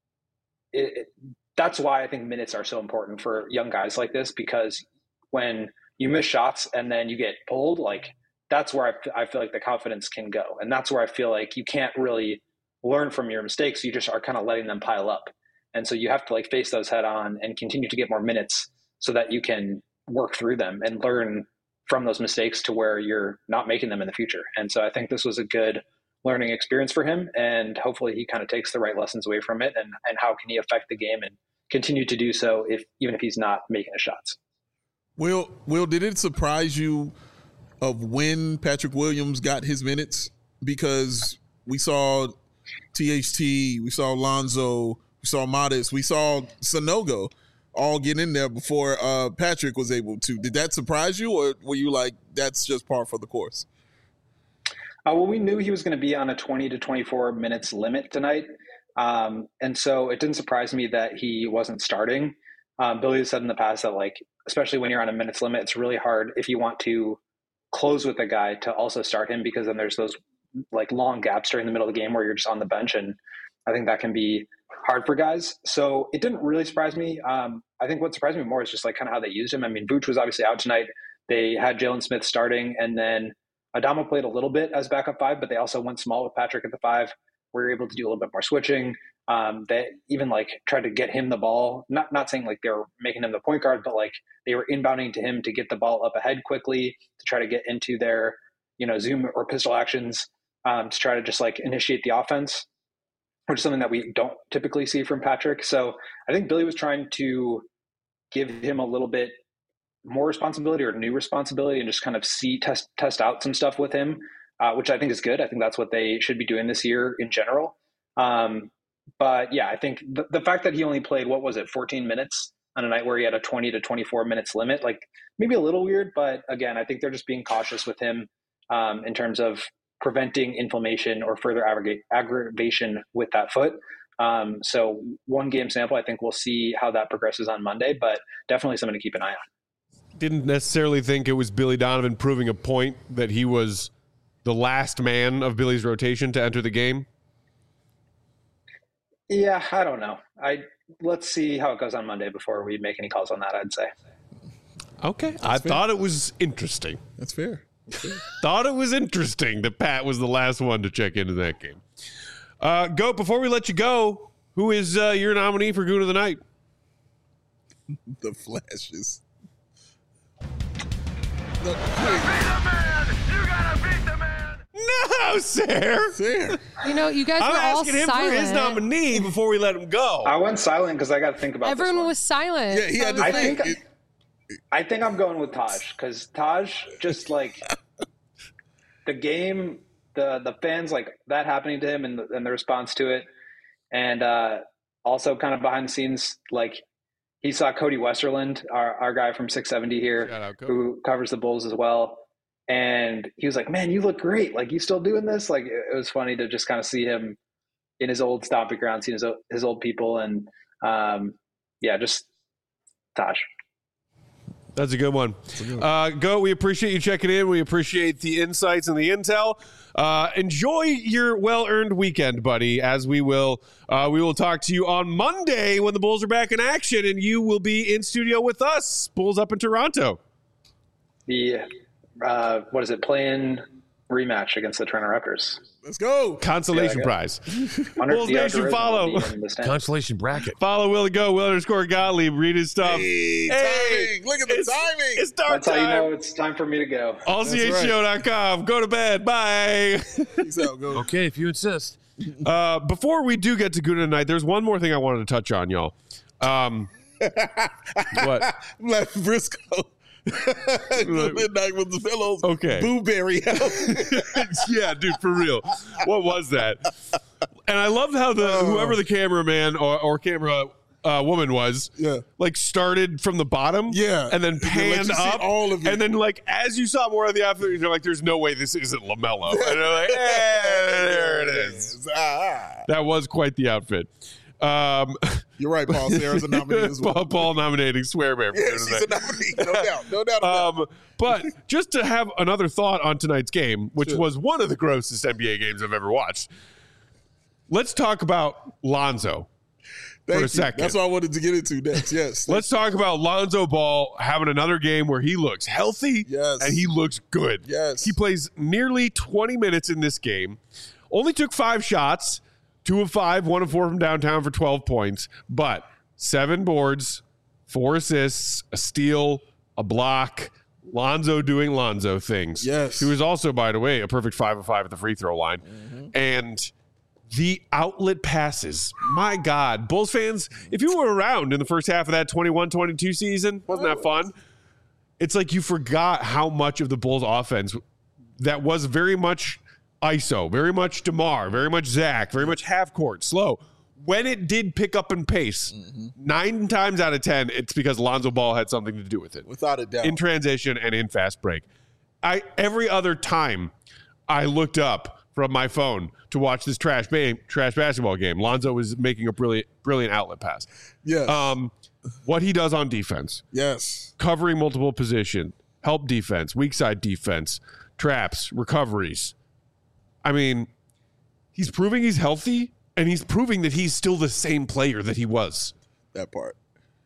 that's why I think minutes are so important for young guys like this, because when you miss shots and then you get pulled, like that's where I feel like the confidence can go. And that's where I feel like you can't really learn from your mistakes. You just are kind of letting them pile up. And so you have to like face those head on and continue to get more minutes so that you can work through them and learn from those mistakes to where you're not making them in the future. And so I think this was a good learning experience for him, and hopefully he kind of takes the right lessons away from it, and how can he affect the game and continue to do so even if he's not making the shots. Will, did it surprise you of when Patrick Williams got his minutes? Because we saw THT, we saw Lonzo, we saw Modest, we saw Sanogo all get in there before Patrick was able to. Did that surprise you, or were you like, that's just par for the course? Well, we knew he was going to be on a 20 to 24 minutes limit tonight. And so it didn't surprise me that he wasn't starting. Billy has said in the past that, like, especially when you're on a minutes limit, it's really hard if you want to close with a guy to also start him, because then there's those like long gaps during the middle of the game where you're just on the bench. And I think that can be hard for guys. So it didn't really surprise me. I think what surprised me more is just like kind of how they used him. I mean, Vooch was obviously out tonight. They had Jalen Smith starting, and then Adama played a little bit as backup 5, but they also went small with Patrick at the 5. We were able to do a little bit more switching. They even like tried to get him the ball, not saying like they were making him the point guard, but like they were inbounding to him to get the ball up ahead quickly to try to get into their, zoom or pistol actions to try to just like initiate the offense, which is something that we don't typically see from Patrick. So I think Billy was trying to give him a little bit more responsibility or new responsibility and just kind of test out some stuff with him, which I think is good. I think that's what they should be doing this year in general. But yeah, I think the fact that he only played, 14 minutes on a night where he had a 20 to 24 minutes limit, like maybe a little weird, but again, I think they're just being cautious with him in terms of preventing inflammation or further aggravation with that foot. So one game sample, I think we'll see how that progresses on Monday, but definitely something to keep an eye on. Didn't necessarily think it was Billy Donovan proving a point that he was the last man of Billy's rotation to enter the game. Yeah, I don't know. Let's see how it goes on Monday before we make any calls on that, I'd say. Okay. I thought it was interesting. That's fair. Thought it was interesting that Pat was the last one to check into that game. Goat, before we let you go, who is your nominee for Goon of the Night? The Flashes. No, sir. There. You know, you guys I'm were all asking him silent. for his nominee before we let him go. I went silent because I got to think about Everyone this one. was silent. Yeah, he had to I think. think I think I'm going with Taj because Taj just like the game, the fans like that happening to him and the response to it, and also kind of behind the scenes, like he saw Cody Westerland, our guy from 670 here, Shout out, Cody. who covers the Bulls as well, and he was like, "Man, you look great! Like you still doing this?" Like it was funny to just kind of see him in his old stomping ground, seeing his old people, and yeah, just Taj. That's a good one. Go. We appreciate you checking in. We appreciate the insights and the intel. Enjoy your well-earned weekend, buddy, as we will talk to you on Monday when the Bulls are back in action, and you will be in studio with us, Bulls up in Toronto. The what is it? Play-in rematch against the Toronto Raptors. Let's go. Consolation prize. Bulls Nation, follow. Consolation bracket. Follow Will Go, Will_Gottlieb. Read his stuff. Hey, timing. Look at the timing. It's dark That's time. how you know it's time for me to go. AllCHGO.com. Go to bed. Bye. Peace out. Go. Okay, if you insist. Before we do get to Guna tonight, there's one more thing I wanted to touch on, y'all. What? Left Briscoe. Midnight with the pillows. Okay. Blueberry. Yeah, dude, for real. What was that? And I loved how whoever the cameraman or camera woman was, like started from the bottom, and then panned up, all of it. and then like as you saw more of the outfit, you're like, "There's no way this isn't LaMelo." And they're like, "There it is." That was quite the outfit. You're right, Paul. Sarah's a nominee as well. Paul nominating Swear Bear. Yeah, she's a nominee. No doubt about it. But just to have another thought on tonight's game, which was one of the grossest NBA games I've ever watched. Let's talk about Lonzo for a second. That's what I wanted to get into next. Yes. Let's talk about Lonzo Ball having another game where he looks healthy and he looks good. Yes. He plays nearly 20 minutes in this game. Only took 5 shots. 2 of 5, 1 of 4 from downtown for 12 points, but 7 boards, 4 assists, a steal, a block. Lonzo doing Lonzo things. Yes. He was also, by the way, a perfect 5 of 5 at the free throw line. And the outlet passes. My God. Bulls fans, if you were around in the first half of that 21-22 season, wasn't that fun? It's like you forgot how much of the Bulls offense that was very much ISO, very much DeMar, very much Zach, very much half court, slow. When it did pick up in pace, 9 times out of 10, it's because Lonzo Ball had something to do with it. Without a doubt. In transition and in fast break. Every other time I looked up from my phone to watch this trash basketball game, Lonzo was making a brilliant outlet pass. Yes. What he does on defense. Yes. Covering multiple position, help defense, weak side defense, traps, recoveries. I mean, he's proving he's healthy, and he's proving that he's still the same player that he was. That part.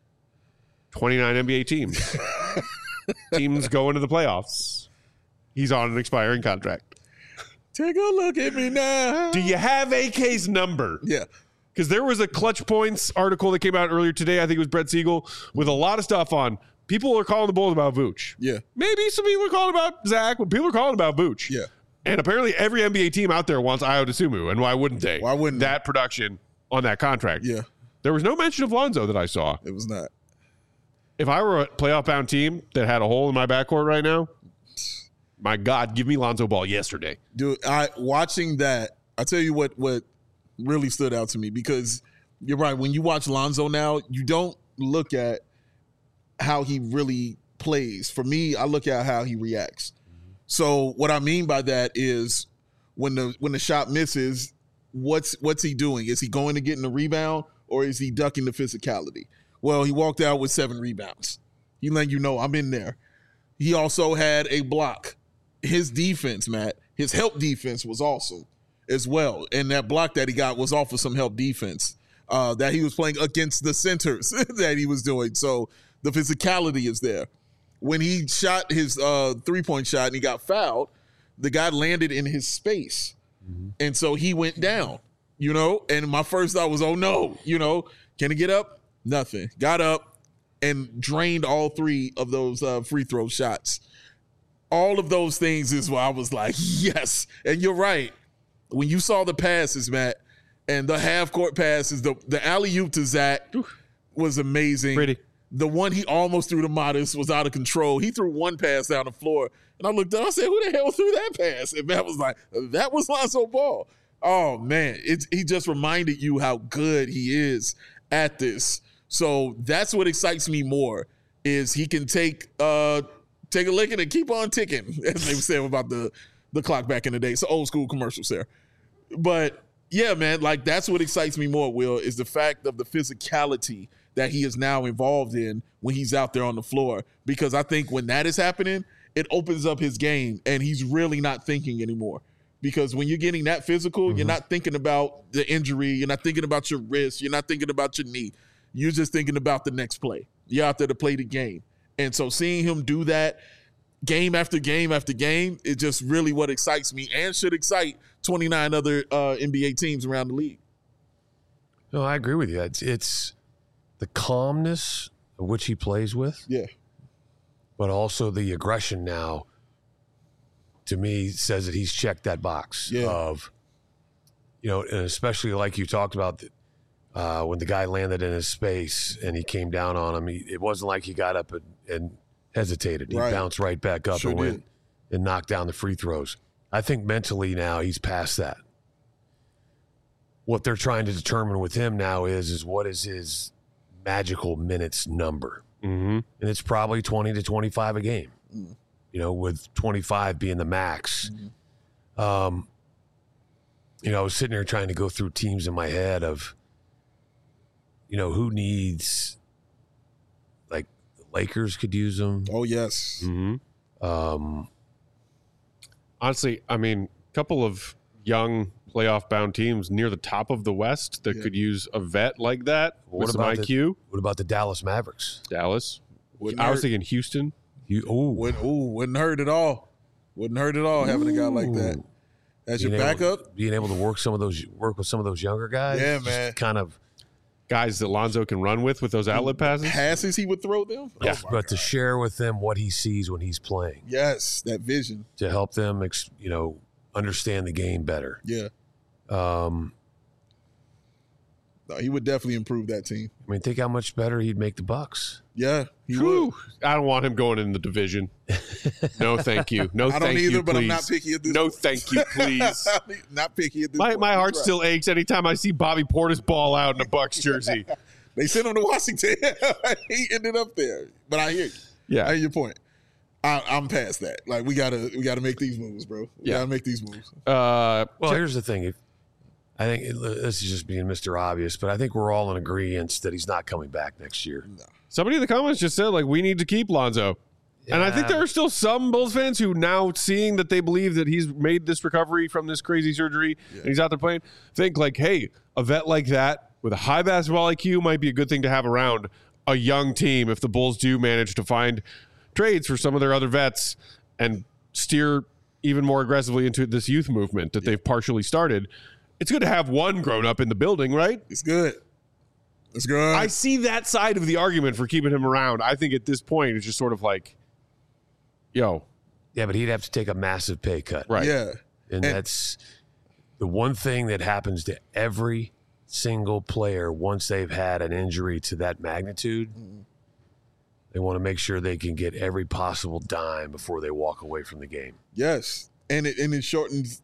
29 NBA teams. Teams going to the playoffs. He's on an expiring contract. Take a look at me now. Do you have AK's number? Yeah. Because there was a Clutch Points article that came out earlier today. I think it was Brett Siegel with a lot of stuff on. People are calling the Bulls about Vooch. Yeah. Maybe some people are calling about Zach, but people are calling about Vooch. Yeah. And apparently every NBA team out there wants Ayo Dosunmu, and why wouldn't they? Why wouldn't that production on that contract? Yeah. There was no mention of Lonzo that I saw. It was not. If I were a playoff-bound team that had a hole in my backcourt right now, my God, give me Lonzo Ball yesterday. Dude, watching that, I tell you what really stood out to me, because you're right. When you watch Lonzo now, you don't look at how he really plays. For me, I look at how he reacts. So what I mean by that is when the shot misses, what's he doing? Is he going to get in the rebound, or is he ducking the physicality? Well, he walked out with 7 rebounds. He let you know I'm in there. He also had a block. His defense, Matt, his help defense was awesome as well. And that block that he got was off of some help defense that he was playing against the centers that he was doing. So the physicality is there. When he shot his 3-point shot and he got fouled, the guy landed in his space. And so he went down, and my first thought was, oh no, can he get up? Nothing. Got up and drained all 3 of those free throw shots. all of those things is where I was like, yes. And you're right. When you saw the passes, Matt, and the half-court passes, the alley-oop to Zach was amazing. Pretty. The one he almost threw to Modest was out of control. He threw one pass down the floor, and I looked up, I said, who the hell threw that pass? And Matt was like, that was Lonzo Ball. Oh, man. He just reminded you how good he is at this. So that's what excites me more, is he can take a licking and keep on ticking, as they said about the clock back in the day. It's old school commercials there. But, yeah, man, like that's what excites me more, Will, is the fact of the physicality that he is now involved in when he's out there on the floor. Because I think when that is happening, it opens up his game, and he's really not thinking anymore. Because when you're getting that physical, you're not thinking about the injury. You're not thinking about your wrist. You're not thinking about your knee. You're just thinking about the next play. You're out there to play the game. And so seeing him do that game after game after game is just really what excites me and should excite 29 other NBA teams around the league. No, I agree with you. It's the calmness of which he plays with. Yeah. But also the aggression now, to me, says that he's checked that box of, and especially like you talked about when the guy landed in his space and he came down on him, it wasn't like he got up and hesitated. He bounced right back up and went and knocked down the free throws. I think mentally now he's past that. What they're trying to determine with him now is what is his magical minutes number. Mm-hmm. And it's probably 20 to 25 a game, with 25 being the max. Mm-hmm. I was sitting there trying to go through teams in my head of, who needs, like, the Lakers could use them. Oh, yes. Mm-hmm. Honestly, I mean, a couple of young playoff-bound teams near the top of the West that could use a vet like that with some IQ. What about the Dallas Mavericks? Dallas. I was thinking Houston. Wouldn't hurt at all. Wouldn't hurt at all having a guy like that as your backup. Being able to work with some of those younger guys. Yeah, man. Kind of guys that Lonzo can run with those outlet passes. Passes he would throw them. Yes, but to share with them what he sees when he's playing. Yes, that vision. To help them, understand the game better. Yeah. No, he would definitely improve that team. I mean, think how much better he'd make the Bucks. Yeah, he would. I don't want him going in the division. No, thank you. No, I don't thank either, you, but I'm please. not picky at this No, point. thank you, please. Not picky at this point. My heart still aches anytime I see Bobby Portis ball out in a Bucks jersey. They sent him to Washington. He ended up there. But I hear you. Yeah. I hear your point. I'm past that. Like we gotta make these moves, bro. We gotta make these moves. Well, here's the thing. I think this is just being Mr. Obvious, but I think we're all in agreement that he's not coming back next year. No. Somebody in the comments just said, like, we need to keep Lonzo. Yeah. And I think there are still some Bulls fans who now, seeing that they believe that he's made this recovery from this crazy surgery and he's out there playing, think like, hey, a vet like that with a high basketball IQ might be a good thing to have around a young team if the Bulls do manage to find trades for some of their other vets and steer even more aggressively into this youth movement that they've partially started. It's good to have one grown up in the building, right? It's good. It's good. I see that side of the argument for keeping him around. I think at this point, it's just sort of like, yo. Yeah, but he'd have to take a massive pay cut. Right. Yeah. And that's the one thing that happens to every single player once they've had an injury to that magnitude. They want to make sure they can get every possible dime before they walk away from the game. Yes. And it shortens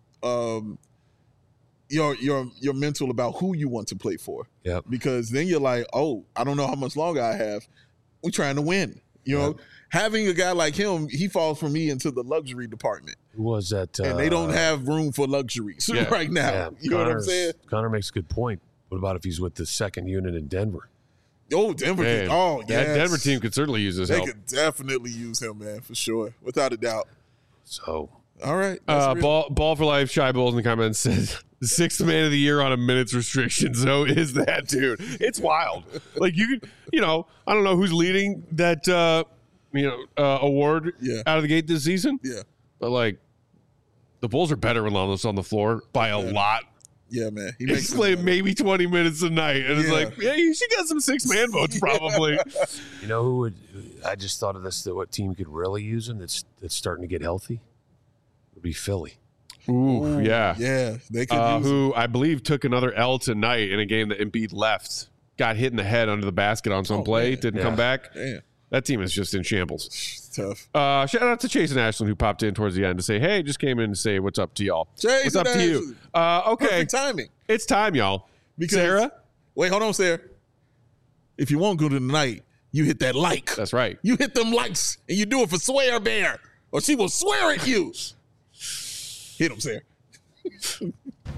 your mental about who you want to play for. Yep. Because then you're like, oh, I don't know how much longer I have. We're trying to win. You know, having a guy like him, he falls for me into the luxury department. Who was that? And they don't have room for luxuries right now. Yeah. You know what I'm saying? Connor makes a good point. What about if he's with the second unit in Denver? Oh, Denver. Man, Oh, yeah. That Denver team could certainly use his They help. could definitely use him, man, for sure. Without a doubt. So, all right. Ball for life. Shy Bulls in the comments says sixth man of the year on a minutes restriction. So is that dude? It's wild. Like you could, I don't know who's leading that, award out of the gate this season. Yeah. But like, the Bulls are better when Lonzo's on the floor by a lot. Yeah, man. He He's playing maybe 20 minutes a night. And it's like, yeah, you should get some 6-man votes probably. You know who would? I just thought of this. That what team could really use him? That's starting to get healthy. Would be Philly. Ooh, yeah. Yeah, they could use who I believe took another L tonight in a game that Embiid left. Got hit in the head under the basket on some play. Man. Didn't come back. Damn. That team is just in shambles. It's tough. Shout out to Chase and Ashland who popped in towards the end to say, hey, just came in to say what's up to y'all. Chase what's up and to you? Ashland. Okay. Perfect timing. It's time, y'all. Because, Sarah? Wait, hold on, Sarah. If you want good tonight, you hit that like. That's right. You hit them likes, and you do it for Swear Bear, or she will swear at you. Hit him, Sarah. To be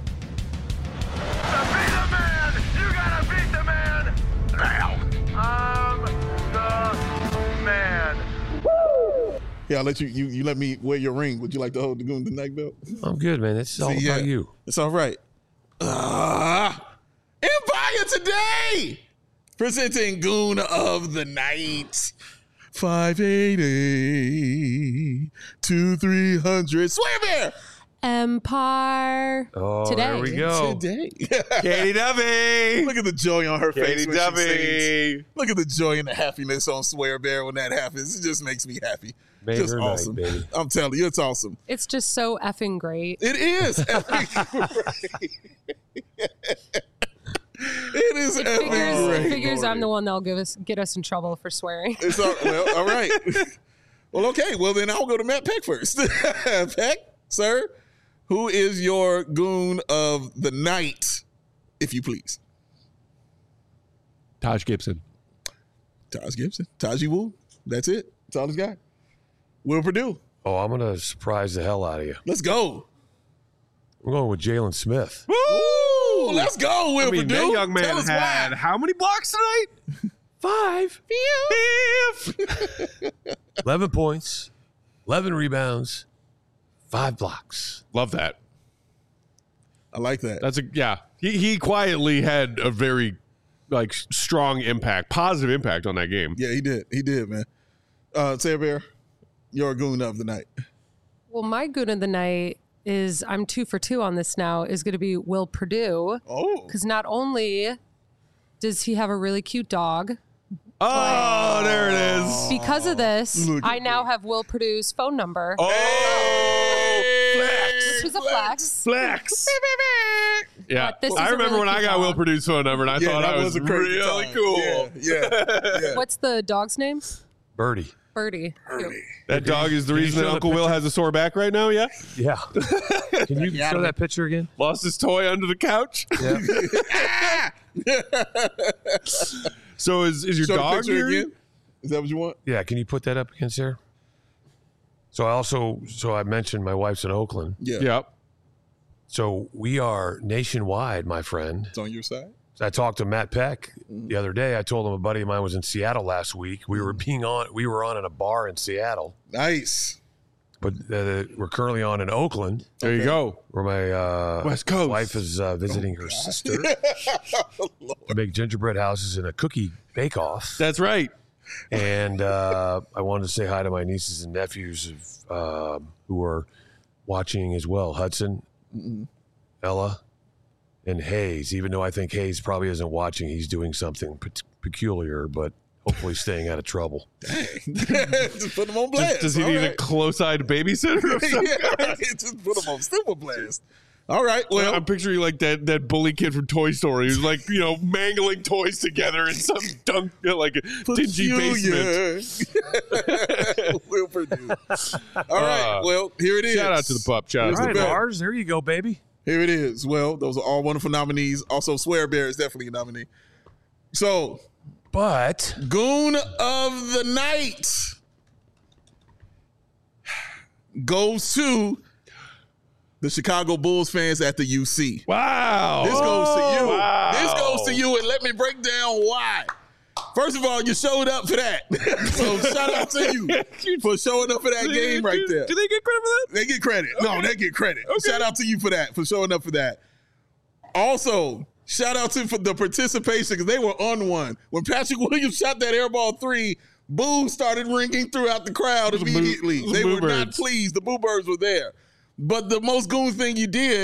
the man, you gotta beat the man now. I'm the man. Yeah, I'll let you let me wear your ring. Would you like to hold the Goon Tonight belt? I'm good, man. It's all about you. It's all right. Empire Today presenting Goon of the Night. 580-2300. Swear Bear. Empire. Oh, Today. there we go. Today. Katie Duffy. Look at the joy on her face Katie when she sings. Duffy. Look at the joy and the happiness on Swear Bear when that happens. It just makes me happy. Made Just her awesome. night, baby. I'm telling you, it's awesome. It's just so effing great. It is. It is It figures I'm the one that'll get us in trouble for swearing. It's all right. Well, okay. Well, then I'll go to Matt Peck first. Peck, sir, who is your Goon of the Night, if you please? Taj Gibson. Taj Gibson. Taji Wu. That's it. That's all he's got. Will Purdue. Oh, I'm gonna surprise the hell out of you. Let's go. I'm going with Jalen Smith. Woo! Let's go, Will Purdue. That young man Tell us had why. how many blocks tonight? 5. 11 points, 11 rebounds, 5 blocks. Love that. I like that. He quietly had a very strong impact, positive impact on that game. Yeah, he did. He did, man. Sarah Bear, your Goon of the Night. Well, my Goon of the Night is, I'm 2 for 2 on this now, is going to be Will Purdue. Oh. Because not only does he have a really cute dog, Oh, there it is. because of this, Look at I now have Will Purdue's phone number. Oh, Which is a flex. flex. Yeah, But this is I a remember really when I cute got dog. Will Purdue's phone number, and I thought that I was a crazy really time. cool. Yeah. What's the dog's name? Birdie. Birdie. That dog is the Can you reason show that the Uncle Will picture? has a sore back right now. Yeah, Yeah. Can you show that picture again? lost his toy under the couch. Yeah. So is your Show the dog picture here? again. Is that what you want? Yeah. Can you put that up again, Sarah? So I mentioned my wife's in Oakland. Yeah. Yep. So we are nationwide, my friend. It's on your side. I talked to Matt Peck the other day. I told him a buddy of mine was in Seattle last week. We were on in a bar in Seattle, Nice. but we're currently on in Oakland, There you go. where my West Coast. wife is visiting her sister to make gingerbread houses and a cookie bake-off. That's right. And I wanted to say hi to my nieces and nephews who are watching as well. Hudson, Ella, and Hayes. Even though I think Hayes probably isn't watching, he's doing something peculiar, but hopefully staying out of trouble. Just put him on blast. Does he need a close-eyed babysitter? Or something? Yeah, just put him on super blast. All right. Well, I'm picturing like that bully kid from Toy Story who's like, mangling toys together in some dingy basement. Will Purdue. All right. Well, here it is. Shout out to the pup. Shout out Here's to the the bell. pup. Lars, there you go, baby. Here it is. Well, those are all wonderful nominees. Also, Swear Bear is definitely a nominee. So, But Goon of the Night goes to the Chicago Bulls fans at the UC. Wow. This goes to you. Wow. This goes to you, and let me break down why. First of all, you showed up for that. So shout out to you for showing up for that game right there. Do they get credit for that? They get credit. No, they get credit. Shout out to you for that, for showing up for that. Also, shout out to for the participation because they were on one. When Patrick Williams shot that airball 3, boos started ringing throughout the crowd immediately. They were not pleased. The Boo Birds were there. But the most goon thing you did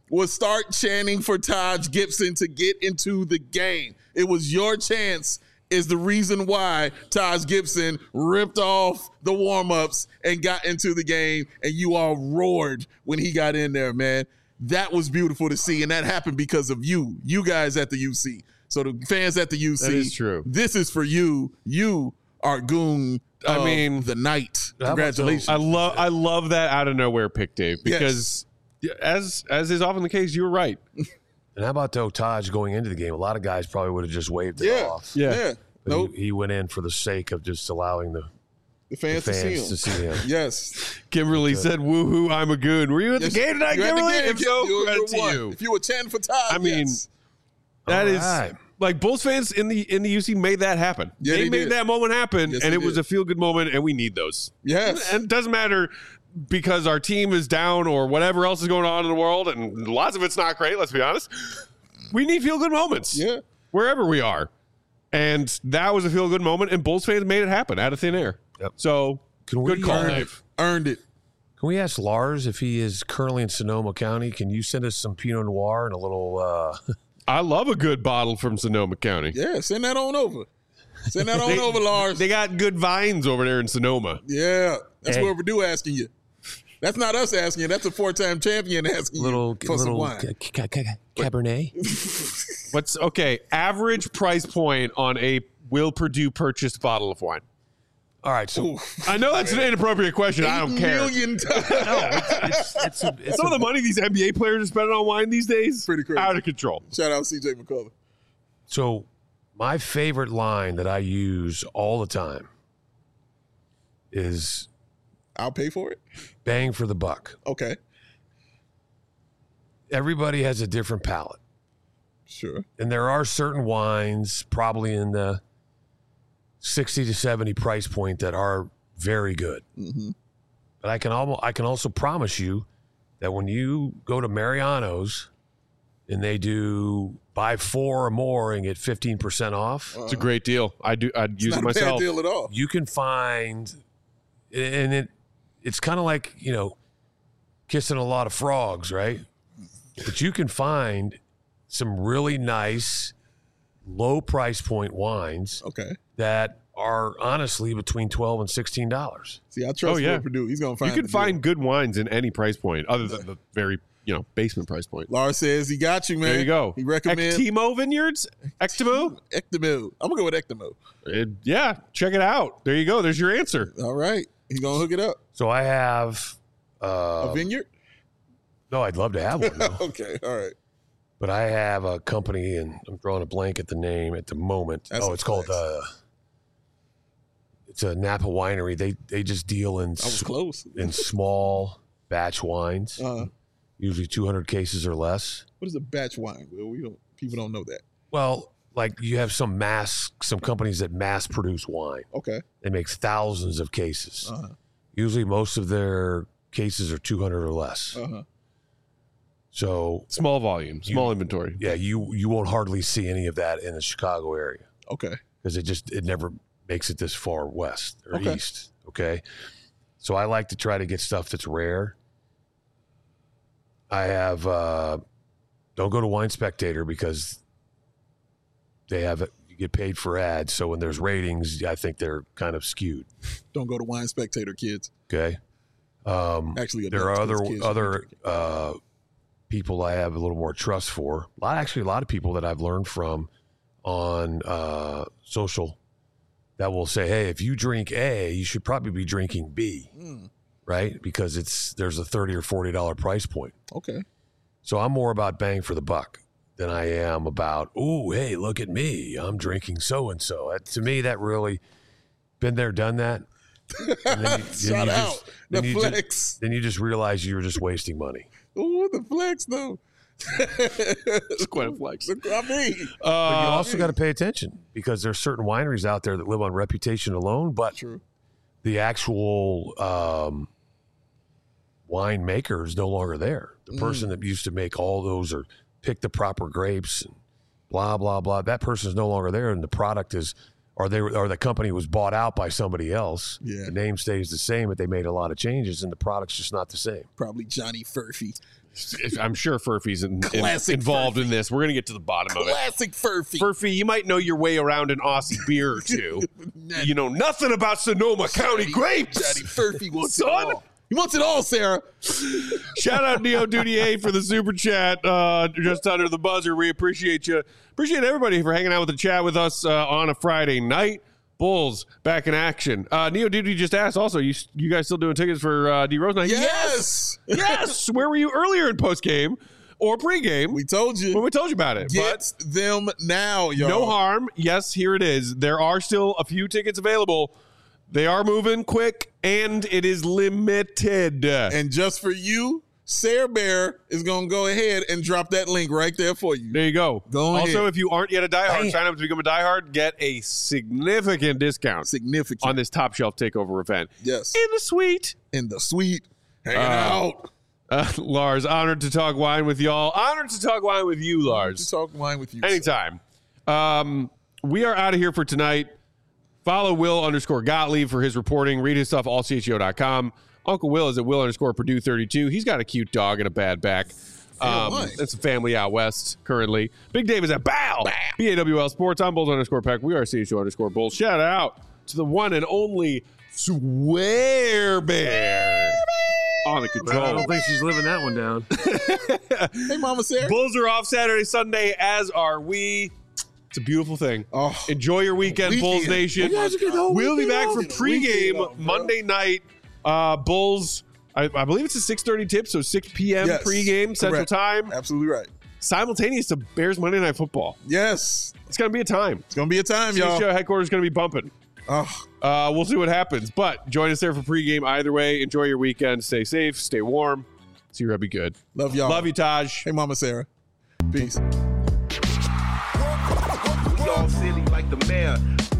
was start chanting for Taj Gibson to get into the game. It was your chance is the reason why Taj Gibson ripped off the warm-ups and got into the game, and you all roared when he got in there, man. That was beautiful to see, and that happened because of you guys at the UC. So the fans at the UC, That is true. This is for you. You are goon of the night. Congratulations. I love that out of nowhere pick, Dave, because as is often the case, you're right. And how about though Taj going into the game? A lot of guys probably would have just waved it off. Yeah. But Nope. he went in for the sake of just allowing the fans to see him. him. Yes. Kimberly said, woohoo, I'm a goon. Were you at the game tonight, You at the Kimberly? game, If so, you're credit to one. you. If you were chanting for Taj, I mean, yes. that All is right. like Bulls fans in the UC made that happen. Yeah, they they made did. that moment happen, Yes, and they it was did. a feel good moment, and we need those. Yes. And it doesn't matter because our team is down or whatever else is going on in the world, and lots of it's not great, let's be honest. We need feel good moments. Yeah. Wherever we are. And that was a feel good moment, and Bulls fans made it happen out of thin air. Yep. So, Can we good call, earn it? Dave. Earned it. Can we ask Lars if he is currently in Sonoma County? Can you send us some Pinot Noir and a little I love a good bottle from Sonoma County. Yeah, send that on over. Send that on over, Lars. They got good vines over there in Sonoma. Yeah, that's Hey. what Purdue asking you. That's not us asking you. That's a 4-time champion asking little you for some little wine. Cabernet? What's okay? Average price point on a Will Purdue purchased bottle of wine. All right, so Ooh, I know that's an inappropriate question. I don't care. $8 million. it's Some of the money these NBA players are spending on wine these days, Pretty crazy. out of control. Shout out CJ McCullough. So my favorite line that I use all the time is I'll pay for it. bang for the buck. Okay, Everybody has a different palate. sure. And there are certain wines probably in the 60 to 70 price point that are very good. Mm-hmm. But I can also promise you that when you go to Mariano's and they do buy 4 or more and get 15% off, It's a great deal. I'd use It's it not a myself. bad deal at all. you can find, and it's kind of like, kissing a lot of frogs, right? But you can find some really nice low price point wines Okay. that are honestly between $12 and $16. See, I trust Oh, yeah. Will Purdue. He's gonna find. You can the deal. find good wines in any price point, other than the very basement price point. Lars says he got you, man. There you go. He recommends Ectimo Vineyards. Ectimo. Ectimo. I'm gonna go with Ectimo. Yeah, check it out. There you go. There's your answer. All right, he's gonna hook it up. So I have, A vineyard. no, I'd love to have one, though. Okay. All right. But I have a company, and I'm drawing a blank at the name at the moment. That's a it's called, flex. it's a Napa winery. They just deal in I was close. in small batch wines, Uh, usually 200 cases or less. what is a batch wine? Will people don't know that. Well, like you have some companies that mass produce wine. Okay. They make thousands of cases. Uh-huh. Usually most of their cases are 200 or less. Uh-huh. So Small volume, small inventory. yeah, you won't hardly see any of that in the Chicago area Okay. because it never makes it this far west or Okay. east. Okay. So I like to try to get stuff that's rare. I have, don't go to Wine Spectator because they have it. You get paid for ads. So when there's ratings, I think they're kind of skewed. Don't go to Wine Spectator, kids. Okay. Actually, There are adults, kids other shouldn't people I have a little more trust for. A lot of people that I've learned from on social that will say, "Hey, if you drink A, you should probably be drinking B, right? Because there's a $30 or $40 price point." Okay. So I'm more about bang for the buck than I am about, "Ooh, hey, look at me, I'm drinking so and so." To me, that really been there, done that. And then Shout out the then flex. then you just realize you're just wasting money. Ooh, the flex though. It's quite a flex. I mean, But you also got to pay attention because there's certain wineries out there that live on reputation alone, but true. the actual winemaker is no longer there. The person that used to make all those or pick the proper grapes and blah, blah, blah, that person is no longer there. And the product is, or the company was bought out by somebody else. Yeah. The name stays the same, but they made a lot of changes and the product's just not the same. Probably Johnny Furphy. I'm sure Furphy's Classic involved Furphy. in this. We're going to get to the bottom of it. Classic Furphy. Furphy, you might know your way around an Aussie beer or two. You know nothing about Sonoma County grapes. Daddy Furphy wants Son. it all. He wants it all, Sarah. Shout out Neo Duty for the super chat just under the buzzer. We appreciate you. Appreciate everybody for hanging out with the chat with us on a Friday night. Bulls back in action. Neo Duty just asked also, you guys still doing tickets for D Rose night? Yes. Yes. Where were you earlier in post game or pre-game? We told you. when we told you about it. Get them now, y'all. No harm. Yes, here it is. There are still a few tickets available. They are moving quick, and it is limited. And just for you, Sarah Bear is going to go ahead and drop that link right there for you. There you go. Go also, ahead. if you aren't yet a diehard, sign up to become a diehard. Get a significant discount Significant. on this Top Shelf Takeover event. Yes. In the suite. In the suite. Hanging out. Lars, honored to talk wine with y'all. Honored to talk wine with you, Lars. To talk wine with you. Anytime. We are out of here for tonight. Follow Will_Gottlieb for his reporting. Read his stuff, allcho.com. Uncle Will is at Will_Purdue32. He's got a cute dog and a bad back. It's a family out west currently. Big Dave is at BAL. BAWL Sports. I'm Bulls_Peck. We are CHO_Bulls. Shout out to the one and only Swear Bear on the I control. don't think she's living that one down. Hey, Mama Sarah. Bulls are off Saturday, Sunday, as are we. It's a beautiful thing. Oh. Enjoy your weekend, Bulls Nation. We'll be back for pregame Monday night. Bulls, I believe it's a 6:30 tip, so 6 p.m. Yes, pregame Central correct. Time. Absolutely right. Simultaneous to Bears Monday Night Football. Yes. It's going to be a time. It's going to be a time, y'all. CHO headquarters is going to be bumping. Oh. We'll see what happens. But join us there for pregame either way. Enjoy your weekend. Stay safe. Stay warm. See you, be good. Love y'all. Love you, Taj. Hey, Mama Sarah. Peace. We all silly like the mayor.